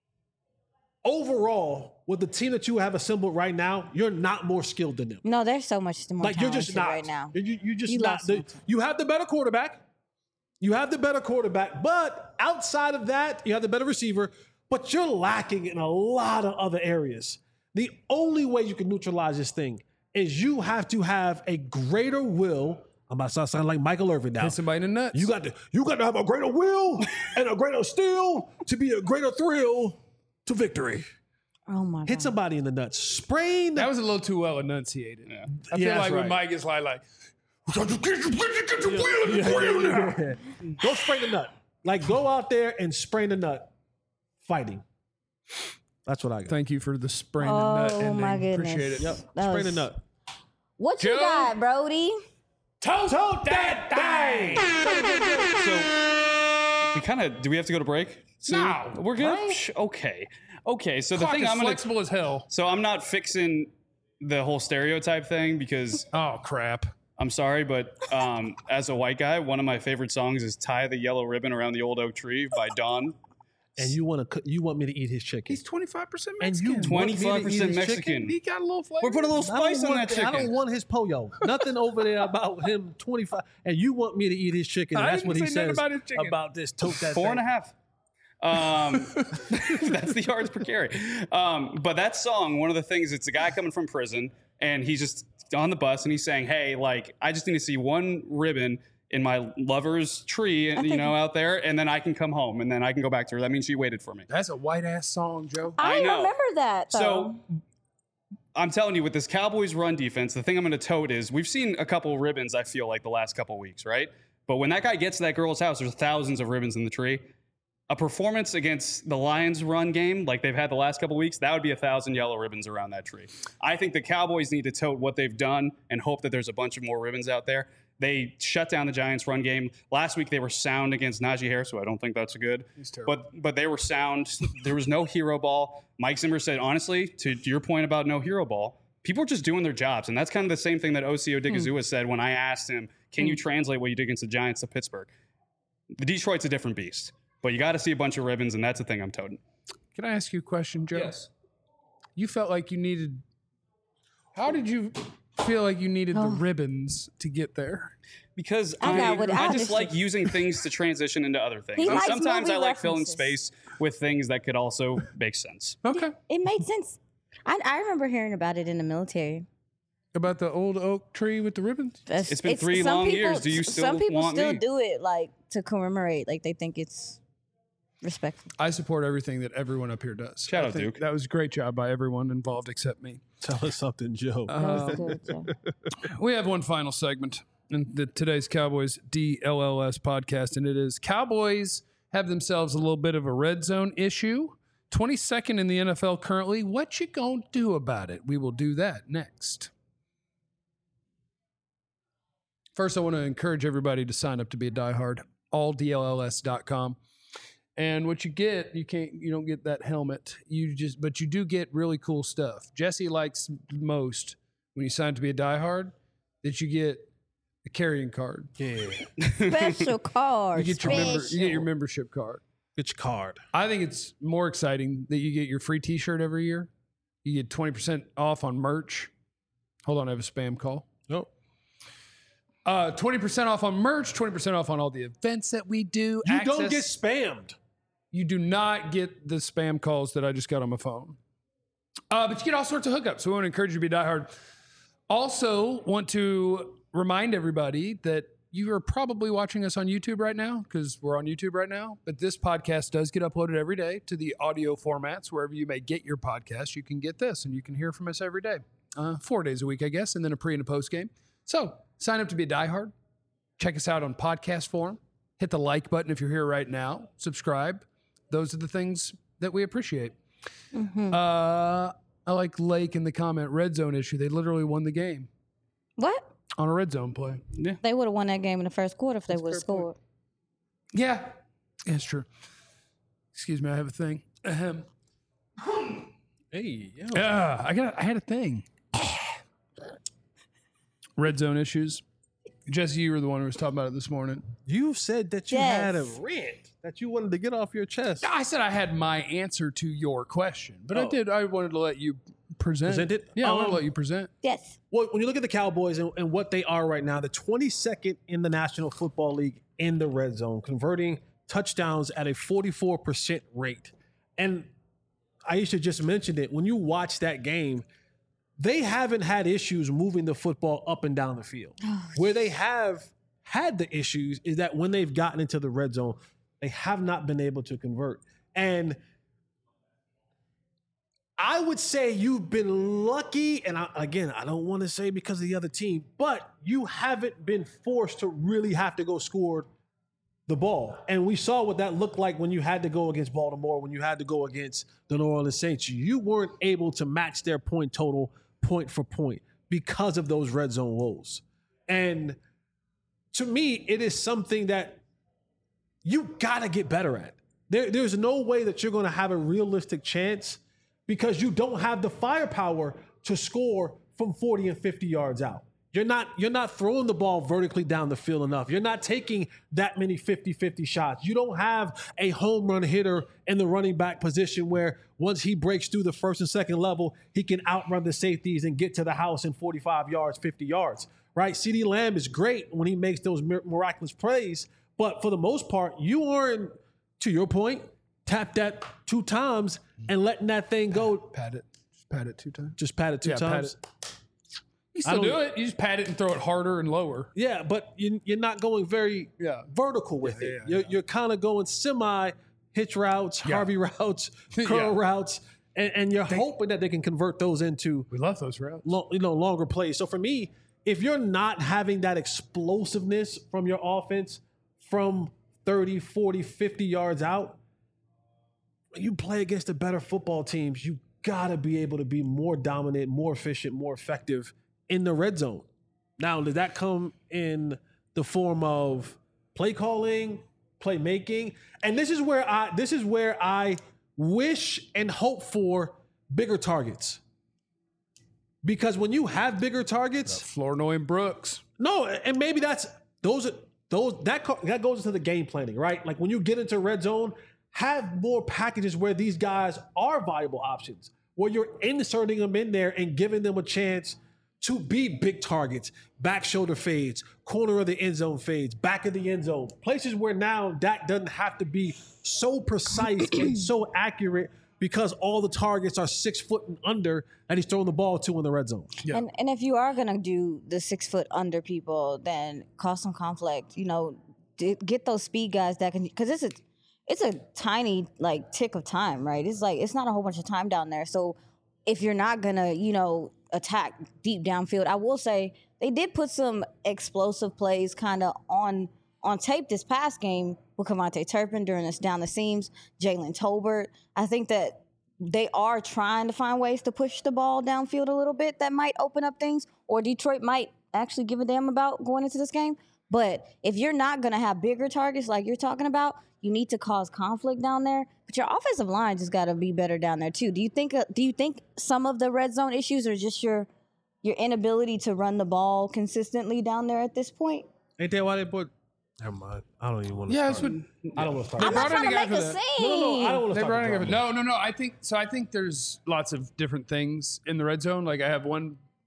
overall with the team that you have assembled right now. You're not more skilled than them. No, there's so much more Like you're just not right now. You, you just You not. lost The, one. you have the better quarterback. You have the better quarterback, but outside of that, you have the better receiver. But you're lacking in a lot of other areas. The only way you can neutralize this thing is you have to have a greater will. I'm about to start sounding like Michael Irvin now. Hit somebody in the nuts. You got to you got to have a greater will and a greater steel to be a greater thrill to victory. Oh my Hit god. somebody in the nuts. Sprain. That was a little too well enunciated. I Yeah, feel that's like when right. Mike is like, like get your, get your wheel in the wheel now. Go sprain the nut. Like go out there and sprain the nut. Fighting. That's what I got. Thank you for the sprain the nut Oh ending. my goodness. Appreciate it. Yep. That Sprain the was- nut. What you Joe? got, Brody? Toast, Toast that thing. So we kind of do we have to go to break? soon? No. We're good. Break? Sh- Okay. Okay. So Clock the thing is I'm gonna flexible as hell. so I'm not fixing the whole stereotype thing because Oh crap. I'm sorry, but um, as a white guy, one of my favorite songs is "Tie the Yellow Ribbon Around the Old Oak Tree" by Dawn. And you want to you want me to eat his chicken? He's twenty-five percent And you Mexican. want me to eat twenty-five percent his Mexican. chicken? He got a little flavor. We're putting a little I don't spice on want that the- I don't chicken. want his pollo. Nothing over there about him twenty-five. And you want me to eat his chicken. And I that's didn't what he say nothing says about his chicken. about this. Tote that Four and a thing. half. Um, that's the yards per carry. Um, but that song, one of the things, it's a guy coming from prison, and he's just on the bus, and he's saying, "Hey, like, I just need to see one ribbon in my lover's tree, and you know, out there, and then I can come home, and then I can go back to her. That means she waited for me." That's a white ass song, Joe. I, I know. remember that. Though. So I'm telling you, with this Cowboys run defense, the thing I'm going to tote is we've seen a couple ribbons, I feel like, the last couple weeks, right? But when that guy gets to that girl's house, there's thousands of ribbons in the tree. A performance against the Lions run game, like they've had the last couple weeks, that would be a thousand yellow ribbons around that tree. I think the Cowboys need to tote what they've done and hope that there's a bunch of more ribbons out there. They shut down the Giants' run game. Last week, they were sound against Najee Harris, so I don't think that's good. He's terrible. But but they were sound. There was no hero ball. Mike Zimmer said, honestly, to your point about no hero ball, people are just doing their jobs. And that's kind of the same thing that O C Odigizua said when I asked him, can you translate what you did against the Giants to Pittsburgh? The Detroit's a different beast. But you got to see a bunch of ribbons, and that's the thing I'm toting. Can I ask you a question, Joe? You felt like you needed. How did you feel like you needed the Oh. ribbons to get there? Because I I, got what- I, I just understand. like using things to transition into other things. He And likes sometimes movie I like filling references. space with things that could also make sense. Okay. it made sense. I, I remember hearing about it in the military. About the old oak tree with the ribbons? That's- It's been three some long people- years. Do you still Some people want still me? do it like to commemorate. Like they think it's respectful. I support everything that everyone up here does. Shout I out, think Duke. That was a great job by everyone involved except me. Tell us something, Joe. That was good, Joe. We have one final segment in the, today's Cowboys D L L S podcast, and it is Cowboys have themselves a little bit of a red zone issue. twenty-second in the N F L currently. What you gonna do about it? We will do that next. First, I want to encourage everybody to sign up to be a diehard, all D L L S dot com. And what you get, you can't, you don't get that helmet. You just, but you do get really cool stuff. Jesse likes most when you sign to be a diehard that you get a carrying card. Yeah. Special card. You get your member, you get your Special. membership card. Get your card. I think it's more exciting that you get your free T-shirt every year. You get twenty percent off on merch. Hold on, I have a spam call. Nope. Uh, twenty percent off on merch, twenty percent off on all the events that we do. You Access, don't get spammed. You do not get the spam calls that I just got on my phone. Uh, but you get all sorts of hookups. So we want to encourage you to be diehard. Also, want to remind everybody that you are probably watching us on YouTube right now because we're on YouTube right now. But this podcast does get uploaded every day to the audio formats. Wherever you may get your podcast, you can get this and you can hear from us every day. Uh, four days a week, I guess, and then a pre and a post game. So sign up to be a diehard. Check us out on podcast form. Hit the like button if you're here right now. Subscribe. Those are the things that we appreciate. Mm-hmm. Uh, I like Lake in the comment, red zone issue. They literally won the game What? on a red zone play. Yeah. They would have won that game in the first quarter if they would have scored. Yeah, that's true. Excuse me, I have a thing. Ahem. Hey, yeah. Uh, I got. I had a thing. Red zone issues. Jesse, you were the one who was talking about it this morning. You said that you Yes. had a rant that you wanted to get off your chest. I said I had my answer to your question, but I Oh. did. I wanted to let you present. Present it? Yeah, I want to Um, let you present. Yes. Well, when you look at the Cowboys and, and what they are right now, the twenty-second in the National Football League in the red zone, converting touchdowns at a forty-four percent rate. And Aisha just mentioned it. When you watch that game, they haven't had issues moving the football up and down the field. Where they have had the issues is that when they've gotten into the red zone, they have not been able to convert. And I would say you've been lucky, and I, again, I don't want to say because of the other team, but you haven't been forced to really have to go score the ball. And we saw what that looked like when you had to go against Baltimore, when you had to go against the New Orleans Saints. You weren't able to match their point total point for point because of those red zone woes. And to me, it is something that you got to get better at. There, there's no way that you're going to have a realistic chance because you don't have the firepower to score from forty and fifty yards out. You're not, you're not throwing the ball vertically down the field enough. You're not taking that many fifty-fifty shots. You don't have a home run hitter in the running back position where once he breaks through the first and second level, he can outrun the safeties and get to the house in forty-five yards, fifty yards, right? CeeDee Lamb is great when he makes those mir- miraculous plays, but for the most part, you aren't, to your point, tap that two times and letting that thing go. Pat it. Just pat it two times. Just pat it two Yeah, pat times. it. You I still don't- do it. You just pat it and throw it harder and lower. Yeah, but you, you're not going very Yeah. vertical with Yeah, it. yeah, you're yeah. you're kind of going semi hitch routes, Yeah. Harvey routes, curl Yeah. routes, and, and you're hoping that they can convert those into We love those routes. lo- you know longer plays. So for me, if you're not having that explosiveness from your offense from thirty, forty, fifty yards out, you play against the better football teams, you got to be able to be more dominant, more efficient, more effective in the red zone. Now, does that come in the form of play calling, play making? And this is where I this is where I wish and hope for bigger targets. Because when you have bigger targets, Flournoy and Brooks. no, and maybe that's those are those that co- that goes into the game planning, right? Like when you get into red zone, have more packages where these guys are viable options, where you're inserting them in there and giving them a chance to be big targets, back shoulder fades, corner of the end zone fades, back of the end zone, places where now Dak doesn't have to be so precise and so accurate because all the targets are six foot and under that he's throwing the ball to in the red zone. Yeah. And and if you are gonna do the six foot under people, then cause some conflict. You know, d- get those speed guys that can, because it's a it's a tiny like tick of time, right? It's like it's not a whole bunch of time down there. So if you're not gonna, you know, attack deep downfield, I will say they did put some explosive plays kind of on on tape this past game with Kevontae Turpin during this down the seams, Jalen Tolbert. I think that they are trying to find ways to push the ball downfield a little bit that might open up things, or Detroit might actually give a damn about going into this game. But if you're not going to have bigger targets like you're talking about, you need to cause conflict down there. But your offensive line just got to be better down there too. Do you think? Uh, do you think some of the red zone issues are just your your inability to run the ball consistently down there at this point? Ain't that why they put? Never mind. I don't even want to. Yeah, that's start. what I don't want to start. I'm not brought in trying to a guy make for a that. scene. No, no, no. I don't want to They start. brought the in a- drama. no, no, no. I think so. I think there's lots of different things in the red zone. Like I have one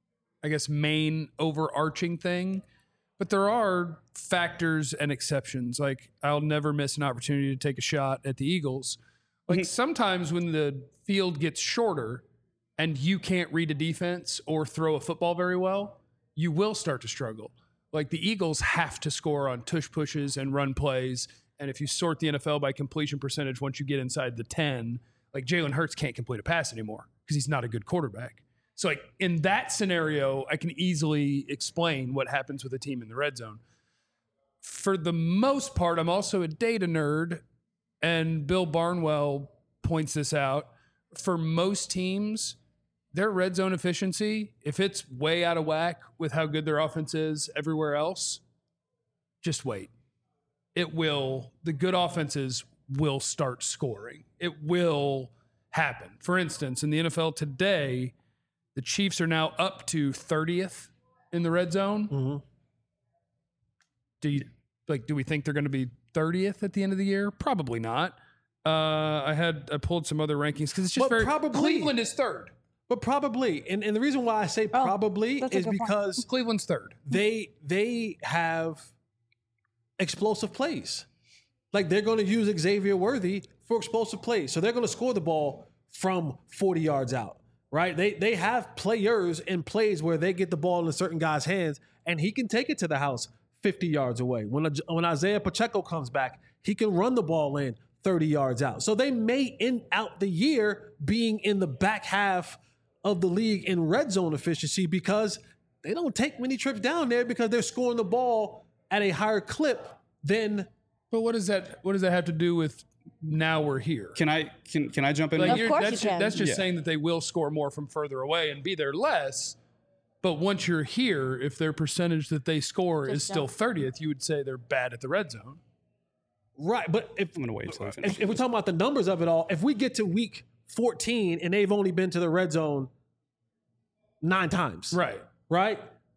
I guess, main overarching thing. But there are factors and exceptions. Like, I'll never miss an opportunity to take a shot at the Eagles. Like, mm-hmm. sometimes when the field gets shorter and you can't read a defense or throw a football very well, you will start to struggle. Like, the Eagles have to score on tush pushes and run plays. And if you sort the N F L by completion percentage, once you get inside the ten, like, Jalen Hurts can't complete a pass anymore because he's not a good quarterback. So, like, in that scenario, I can easily explain what happens with a team in the red zone. For the most part, I'm also a data nerd, and Bill Barnwell points this out. For most teams, their red zone efficiency, if it's way out of whack with how good their offense is everywhere else, just wait. It will, the good offenses will start scoring. It will happen. For instance, in the N F L today, the Chiefs are now up to thirtieth in the red zone. Mm-hmm. Do you like? Do we think they're going to be thirtieth at the end of the year? Probably not. Uh, I had I pulled some other rankings because it's just but very. Probably, Cleveland is third, but probably, and, and the reason why I say Oh, probably is because point. Cleveland's third. They they have explosive plays. Like, they're going to use Xavier Worthy for explosive plays, so they're going to score the ball from forty yards out. Right? They they have players and plays where they get the ball in a certain guy's hands and he can take it to the house fifty yards away. When, when Isaiah Pacheco comes back, he can run the ball in thirty yards out. So they may end out the year being in the back half of the league in red zone efficiency because they don't take many trips down there because they're scoring the ball at a higher clip than. But what does that what does that have to do with now we're here? Can I can can I jump in? Like, Of you're, course that's you ju- can. that's just Yeah. saying that they will score more from further away and be there less. But once you're here, if their percentage that they score Just is still don't. thirtieth, you would say they're bad at the red zone. Right. But if, I'm gonna wait until I finish. if, if we're talking about the numbers of it all, if we get to week fourteen and they've only been to the red zone nine times. Right. Right?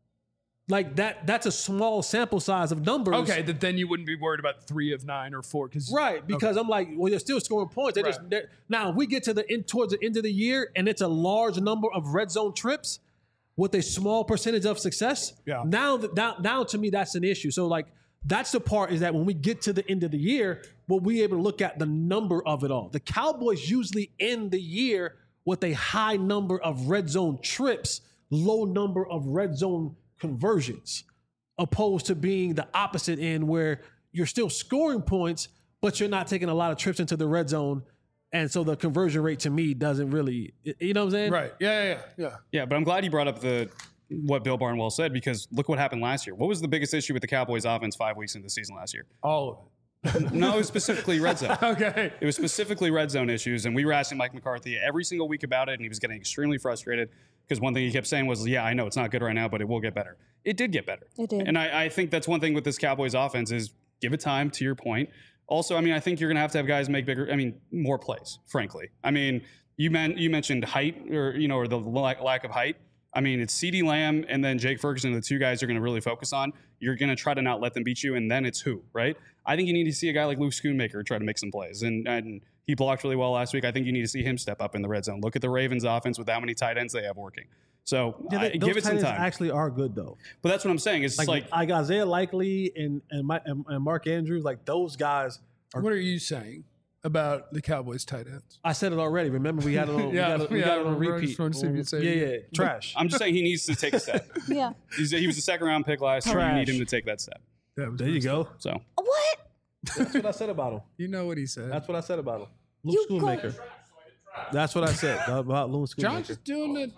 Like that that's a small sample size of numbers. Okay, that then you wouldn't be worried about three of nine or four. Cause, Right, because I'm like, well, you're still scoring points. They're just Right. they're, now, if we get to the end towards the end of the year and it's a large number of red zone trips with a small percentage of success, Yeah. now that now, now to me that's an issue. So like that's the part is that when we get to the end of the year, we'll be able to look at the number of it all. The Cowboys usually end the year with a high number of red zone trips, low number of red zone conversions, opposed to being the opposite end where you're still scoring points, but you're not taking a lot of trips into the red zone. And so the conversion rate to me doesn't really, you know what I'm saying? Right. Yeah, yeah, yeah. yeah. Yeah, but I'm glad you brought up the what Bill Barnwell said because look what happened last year. What was the biggest issue with the Cowboys offense five weeks into the season last year? All of it. No, it was specifically red zone. Okay. It was specifically red zone issues, and we were asking Mike McCarthy every single week about it, and he was getting extremely frustrated because one thing he kept saying was, yeah, I know it's not good right now, but it will get better. It did get better. It did. And I, I think that's one thing with this Cowboys offense is give it time, to your point. Also, I mean, I think you're going to have to have guys make bigger, I mean, more plays, frankly. I mean, you, man, you mentioned height or, you know, or the lack, lack of height. I mean, it's CeeDee Lamb and then Jake Ferguson, the two guys you're going to really focus on. You're going to try to not let them beat you, and then it's who, right? I think you need to see a guy like Luke Schoonmaker try to make some plays. And, and he blocked really well last week. I think you need to see him step up in the red zone. Look at the Ravens offense with how many tight ends they have working. So Yeah, they, I, those give it some tight ends time. actually are good though. But that's what I'm saying. It's Like, like, like Isaiah Likely and and, my, and and Mark Andrews, like those guys. Are, What are you saying about the Cowboys tight ends? I said it already. Remember, we had it on. Yeah, we got it, we yeah, got it I on remember. I repeat. just wanted to see if you'd say it yeah, again. yeah, trash. I'm just saying he needs to take a step. Yeah. He's, he was a second round pick last year. You Trash. need him to take that step. That was There you messed go. up. So What? That's what I said about him. You know what he said. That's what I said about him. Luke You go- Schoonmaker. That's what I said about Luke Schoonmaker. John's just doing it.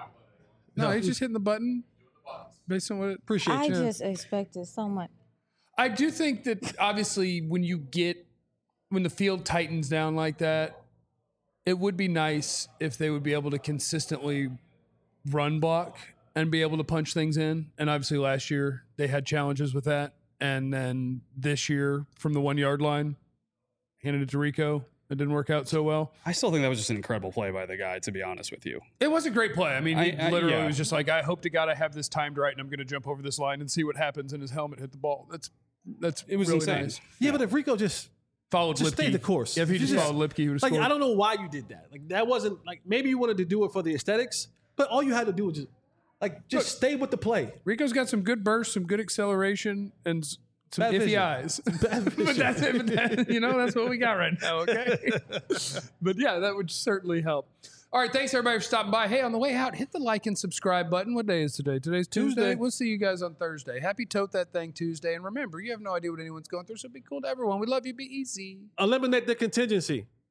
No, No, he's he- just hitting the button based on what it. Appreciate I you. just expected so much. I do think that obviously when you get when the field tightens down like that, it would be nice if they would be able to consistently run block and be able to punch things in. And obviously last year they had challenges with that. And then this year from the one yard line, handed it to Rico. It didn't work out so well. I still think that was just an incredible play by the guy, to be honest with you. It was a great play. I mean, he I- I- literally yeah. was just like, I hope to God I have this timed right and I'm going to jump over this line and see what happens. And his helmet hit the ball. That's that's It was really insane. nice. Yeah, but if Rico just Followed Just Lipke. stay the course. Yeah, if he If you just, just- followed Lipke, he would have like, scored. I don't know why you did that. Like that wasn't like maybe you wanted to do it for the aesthetics, but all you had to do was just Like, just Look. stay with the play. Rico's got some good bursts, some good acceleration, and s- some Bad iffy vision. eyes. Bad but vision. that's it. But that, you know, that's what we got right now. Okay. But yeah, that would certainly help. All right, thanks everybody for stopping by. Hey, on the way out, hit the like and subscribe button. What day is today? Today's Tuesday. Tuesday. We'll see you guys on Thursday. Happy Tote That Thing Tuesday. And remember, you have no idea what anyone's going through, so be cool to everyone. We love you. Be easy. Eliminate the contingency.